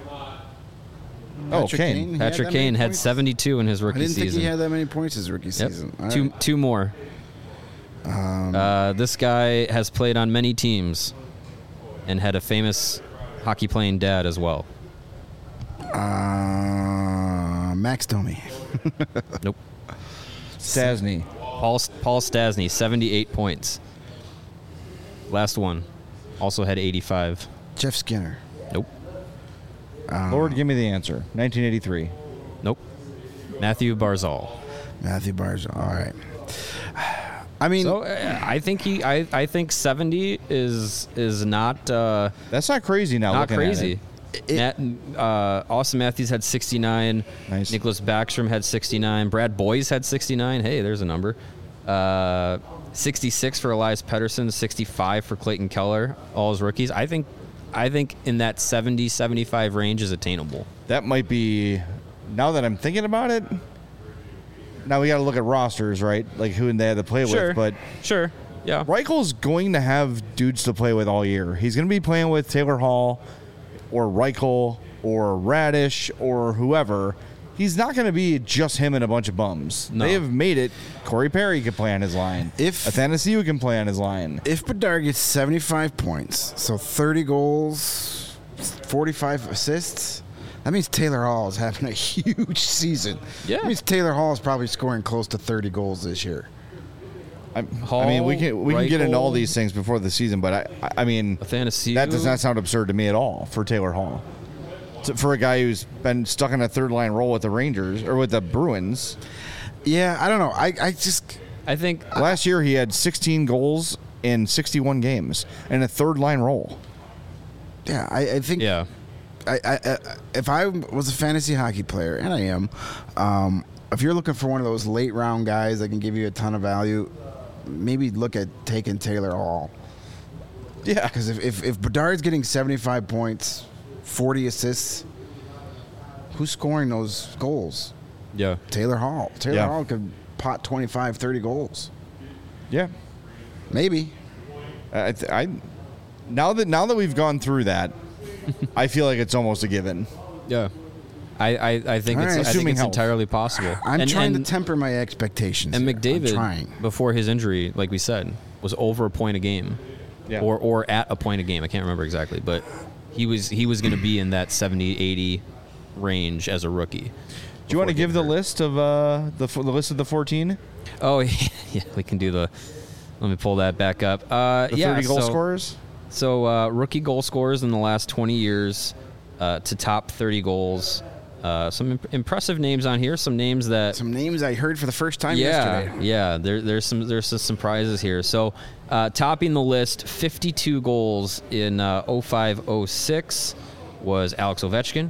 Kane. Patrick Kane had 72 in his rookie season. I didn't think he had that many points his rookie season. Two more. This guy has played on many teams and had a famous hockey playing dad as well. Max Domi. Nope. Stastny. Paul Stastny, 78 points. Last one. Also had 85. Jeff Skinner. Nope. Lord, give me the answer. 1983. Nope. Matthew Barzal. All right. I mean, so I think I think 70 is not. That's not crazy now. Not crazy. Austin Matthews had 69. Nice. Nicholas Backstrom had 69. Brad Boyes had 69. Hey, there's a number. 66 for Elias Pettersson. 65 for Clayton Keller. All his rookies. I think in that 70-75 range is attainable. That might be. Now that I'm thinking about it. Now we got to look at rosters, right? Like who they had to play with. But sure, yeah. Reichel's going to have dudes to play with all year. He's going to be playing with Taylor Hall, or Reichel, or Radish, or whoever. He's not going to be just him and a bunch of bums. No. They have made it. Corey Perry can play on his line. Athanasiou can play on his line. If Bedard gets 75 points, so 30 goals, 45 assists. That means Taylor Hall is having a huge season. Yeah. That means Taylor Hall is probably scoring close to 30 goals this year. I mean, we can get into all these things before the season, but I mean, Athanasiou. That does not sound absurd to me at all for Taylor Hall. For a guy who's been stuck in a third-line role with the Rangers or with the Bruins. Yeah, I don't know. I think last year he had 16 goals in 61 games in a third-line role. Yeah, I think. Yeah. If I was a fantasy hockey player, and I am, if you're looking for one of those late round guys that can give you a ton of value, maybe look at taking Taylor Hall. Yeah, because if Bedard's getting 75 points, 40 assists, who's scoring those goals? Yeah. Taylor Hall. Taylor Yeah. Hall could pot 25, 30 goals. Yeah. Maybe. Now that we've gone through that, I feel like it's almost a given. Yeah. I think All it's, right. I think Assuming it's health. entirely possible. I'm trying to temper my expectations. And here. McDavid, I'm trying. before his injury, like we said, was over a point a game, Yeah. or at a point a game. I can't remember exactly, but he was going to be in that 70, 80 range as a rookie. Do you want to give the list of the list of the 14? Oh yeah, we can do the. Let me pull that back up. The 30 goal so, scorers? So rookie goal scorers in the last 20 years to top 30 goals. Some impressive names on here. Some names that Some names I heard for the first time yesterday. Yeah. There's some surprises here. So topping the list, 52 goals in 05-06 was Alex Ovechkin.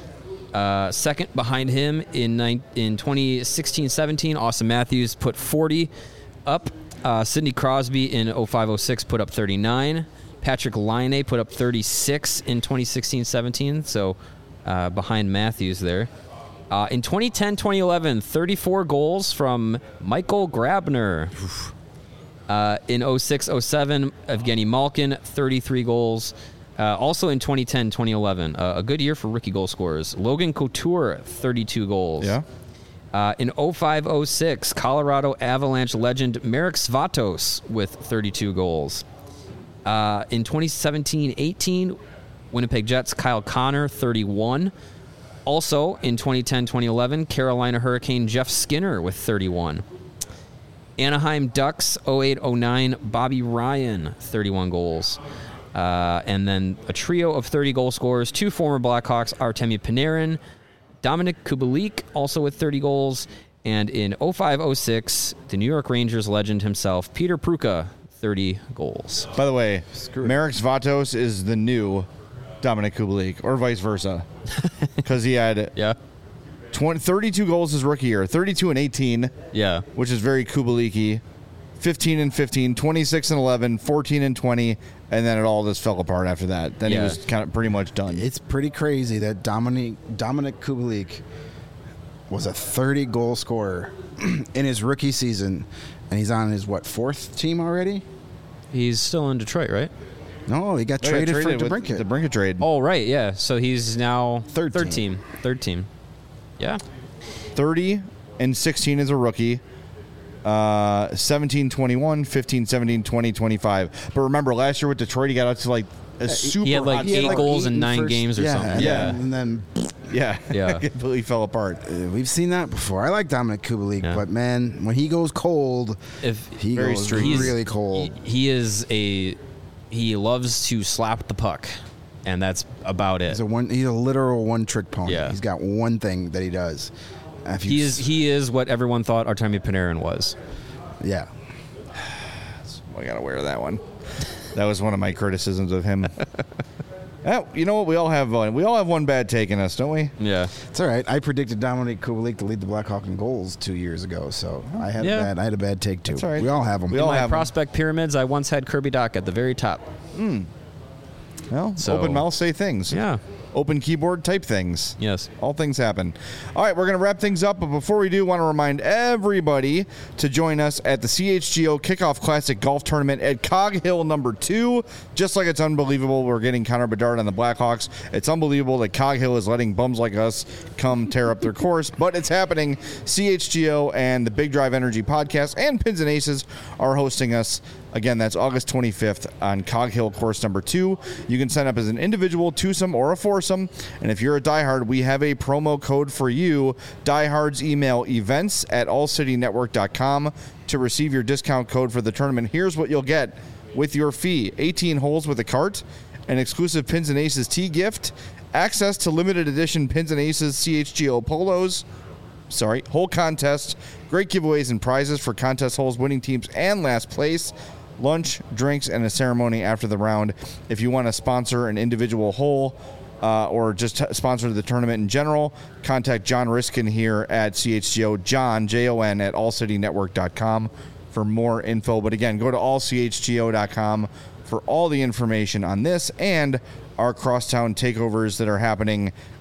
Second behind him in 2016-17, Austin Matthews put 40 up. Sidney Crosby in 05-06 put up 39. Patrick Laine put up 36 in 2016-17, so behind Matthews there. In 2010-2011, 34 goals from Michael Grabner. In 06-07, Evgeny Malkin, 33 goals. Also in 2010-2011, a good year for rookie goal scorers. Logan Couture, 32 goals. Yeah. In 05-06, Colorado Avalanche legend Marek Svatos with 32 goals. In 2017-18, Winnipeg Jets Kyle Connor, 31. Also in 2010-2011, Carolina Hurricane Jeff Skinner with 31. Anaheim Ducks 08-09, Bobby Ryan, 31 goals. And then a trio of 30 goal scorers, two former Blackhawks, Artemi Panarin, Dominic Kubalik, also with 30 goals. And in 05-06, the New York Rangers legend himself, Peter Pruka, 30 goals. By the way, Marek Svatos is the new Dominic Kubalik, or vice versa, because he had Yeah. 32 goals his rookie year, 32 and 18, Yeah. which is very Kubalik-y, 15 and 15, 26 and 11, 14 and 20, and then it all just fell apart after that. Then he Yeah. was kind of pretty much done. It's pretty crazy that Dominic Kubalik was a 30-goal scorer in his rookie season, and he's on his, fourth team already? He's still in Detroit, right? No, he got They got traded for with DeBrincat. the Brinket trade. Oh, right, yeah. So he's now Third Third team. team. Yeah. 30 and 16 as a rookie. 17, 21, 15, 17, 20, 25. But remember, last year with Detroit, he got out to like a super He had like hot eight start. goals in the 9 first- games or something. Yeah. And then Yeah. Yeah. completely fell apart. we've seen that before. I like Dominic Kubalik, Yeah. but man, when he goes cold, If he Very goes streaky. really cold. he loves to slap the puck, and that's about it. He's a literal one-trick pony. Yeah. He's got one thing that he does. If you He is what everyone thought Artemi Panarin was. yeah. I gotta wear that one. That was one of my criticisms of him. You know what? We all have one bad take in us, don't we? Yeah. It's all right. I predicted Dominic Kubalik to lead the Blackhawk in goals 2 years ago, so I had Yeah. a bad take too. That's all right. We all have them. We In all my have 'em. prospect pyramids, I once had Kirby Dach at the very top. Well, So- open mouth say things. Yeah. Open keyboard type things. Yes. All things happen. All right, we're going to wrap things up, but before we do, want to remind everybody to join us at the CHGO Kickoff Classic Golf Tournament at Cog Hill number 2. Just like it's unbelievable we're getting Connor Bedard on the Blackhawks, it's unbelievable that Cog Hill is letting bums like us come tear up their course, but it's happening. CHGO and the Big Drive Energy Podcast and Pins and Aces are hosting us. Again, that's August 25th on Cog Hill course number 2. You can sign up as an individual, twosome, or a foursome. And if you're a diehard, we have a promo code for you. Diehards email events@allcitynetwork.com to receive your discount code for the tournament. Here's what you'll get with your fee: 18 holes with a cart, an exclusive Pins and Aces tee gift, access to limited edition Pins and Aces CHGO polos, whole contest, great giveaways and prizes for contest holes, winning teams, and last place, lunch, drinks, and a ceremony after the round. If you want to sponsor an individual hole or just sponsor the tournament in general, contact John Riskin here at CHGO, John, Jon, at allcitynetwork.com for more info. But again, go to allchgo.com for all the information on this and our crosstown takeovers that are happening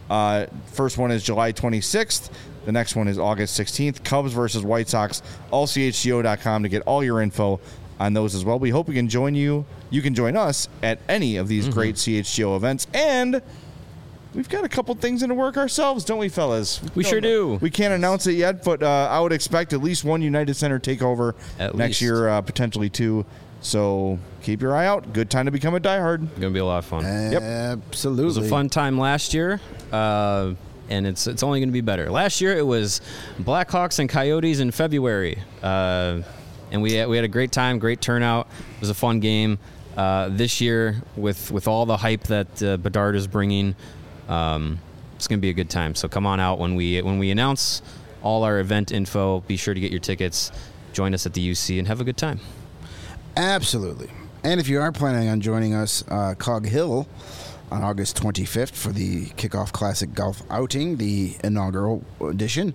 First one is July 26th. The next one is August 16th. Cubs versus White Sox. AllCHGO.com to get all your info on those as well. We hope we can join you. You can join us at any of these great CHGO events. And we've got a couple things in the work ourselves, don't we, fellas? We sure do. We can't announce it yet, but I would expect at least one United Center takeover next year, potentially two. So keep your eye out. Good time to become a diehard. Going to be a lot of fun. Yep. Absolutely. It was a fun time last year, and it's only going to be better. Last year it was Blackhawks and Coyotes in February, and we had a great time, great turnout. It was a fun game. This year, with all the hype that Bedard is bringing, it's going to be a good time. So come on out when we announce all our event info. Be sure to get your tickets. Join us at the UC and have a good time. Absolutely. And if you are planning on joining us, Cog Hill, on August 25th for the Kickoff Classic Golf Outing, the inaugural edition,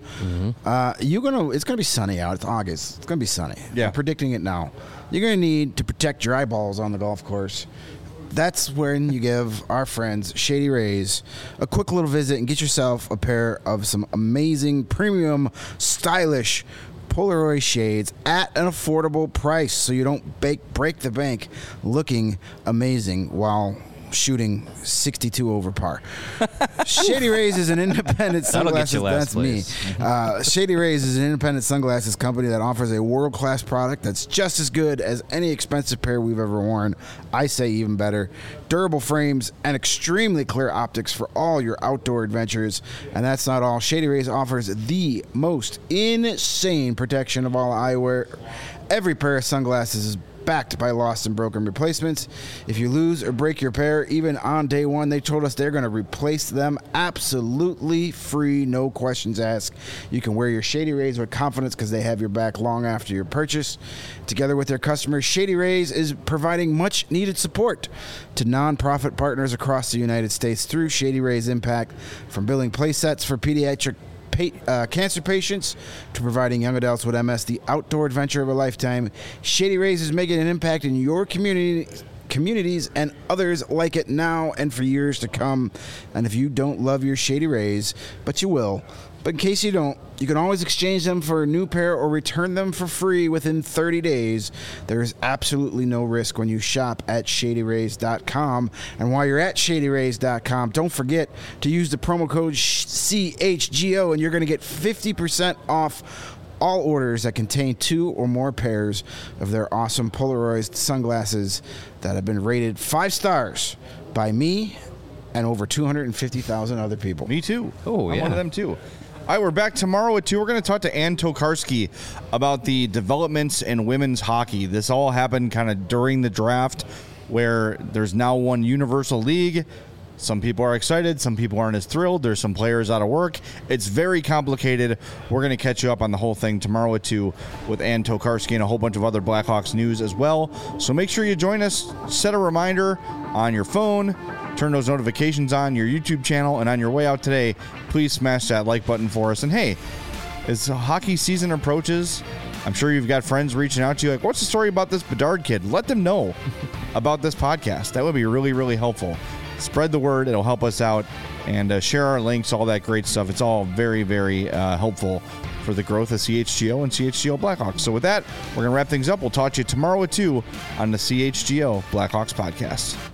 it's gonna be sunny out. It's August. It's gonna be sunny. Yeah. I'm predicting it now. You're gonna need to protect your eyeballs on the golf course. That's when you give our friends Shady Rays a quick little visit and get yourself a pair of some amazing, premium, stylish Polaroid shades at an affordable price, so you don't break the bank looking amazing while shooting 62 over par. Shady Rays is an independent sunglasses. That's me. Shady Rays is an independent sunglasses company that offers a world-class product that's just as good as any expensive pair we've ever worn. I say even better. Durable frames and extremely clear optics for all your outdoor adventures. And that's not all. Shady Rays offers the most insane protection of all eyewear. Every pair of sunglasses is backed by lost and broken replacements. If you lose or break your pair, even on day one, they told us they're going to replace them absolutely free, no questions asked. You can wear your Shady Rays with confidence because they have your back long after your purchase. Together with their customers, Shady Rays is providing much needed support to nonprofit partners across the United States through Shady Rays Impact, from building play sets for pediatric cancer patients to providing young adults with MS the outdoor adventure of a lifetime. Shady Rays is making an impact in your communities and others like it now and for years to come. And if you don't love your Shady Rays, but you will, but in case you don't, you can always exchange them for a new pair or return them for free within 30 days. There is absolutely no risk when you shop at ShadyRays.com. And while you're at ShadyRays.com, don't forget to use the promo code CHGO, and you're going to get 50% off all orders that contain 2 or more pairs of their awesome Polaroid sunglasses that have been rated 5 stars by me and over 250,000 other people. Me too. Oh, I'm yeah. one of them too. All right, we're back tomorrow at 2. We're going to talk to Ann Tokarski about the developments in women's hockey. This all happened kind of during the draft, where there's now one universal league. Some people are excited. Some people aren't as thrilled. There's some players out of work. It's very complicated. We're going to catch you up on the whole thing tomorrow at 2 with Ann Tokarski and a whole bunch of other Blackhawks news as well. So make sure you join us. Set a reminder on your phone. Turn those notifications on your YouTube channel. And on your way out today, please smash that like button for us. And hey, as hockey season approaches, I'm sure you've got friends reaching out to you like, what's the story about this Bedard kid? Let them know about this podcast. That would be really, really helpful. Spread the word. It'll help us out. And share our links, all that great stuff. It's all very, very helpful for the growth of CHGO and CHGO Blackhawks. So with that, we're going to wrap things up. We'll talk to you tomorrow at 2 on the CHGO Blackhawks podcast.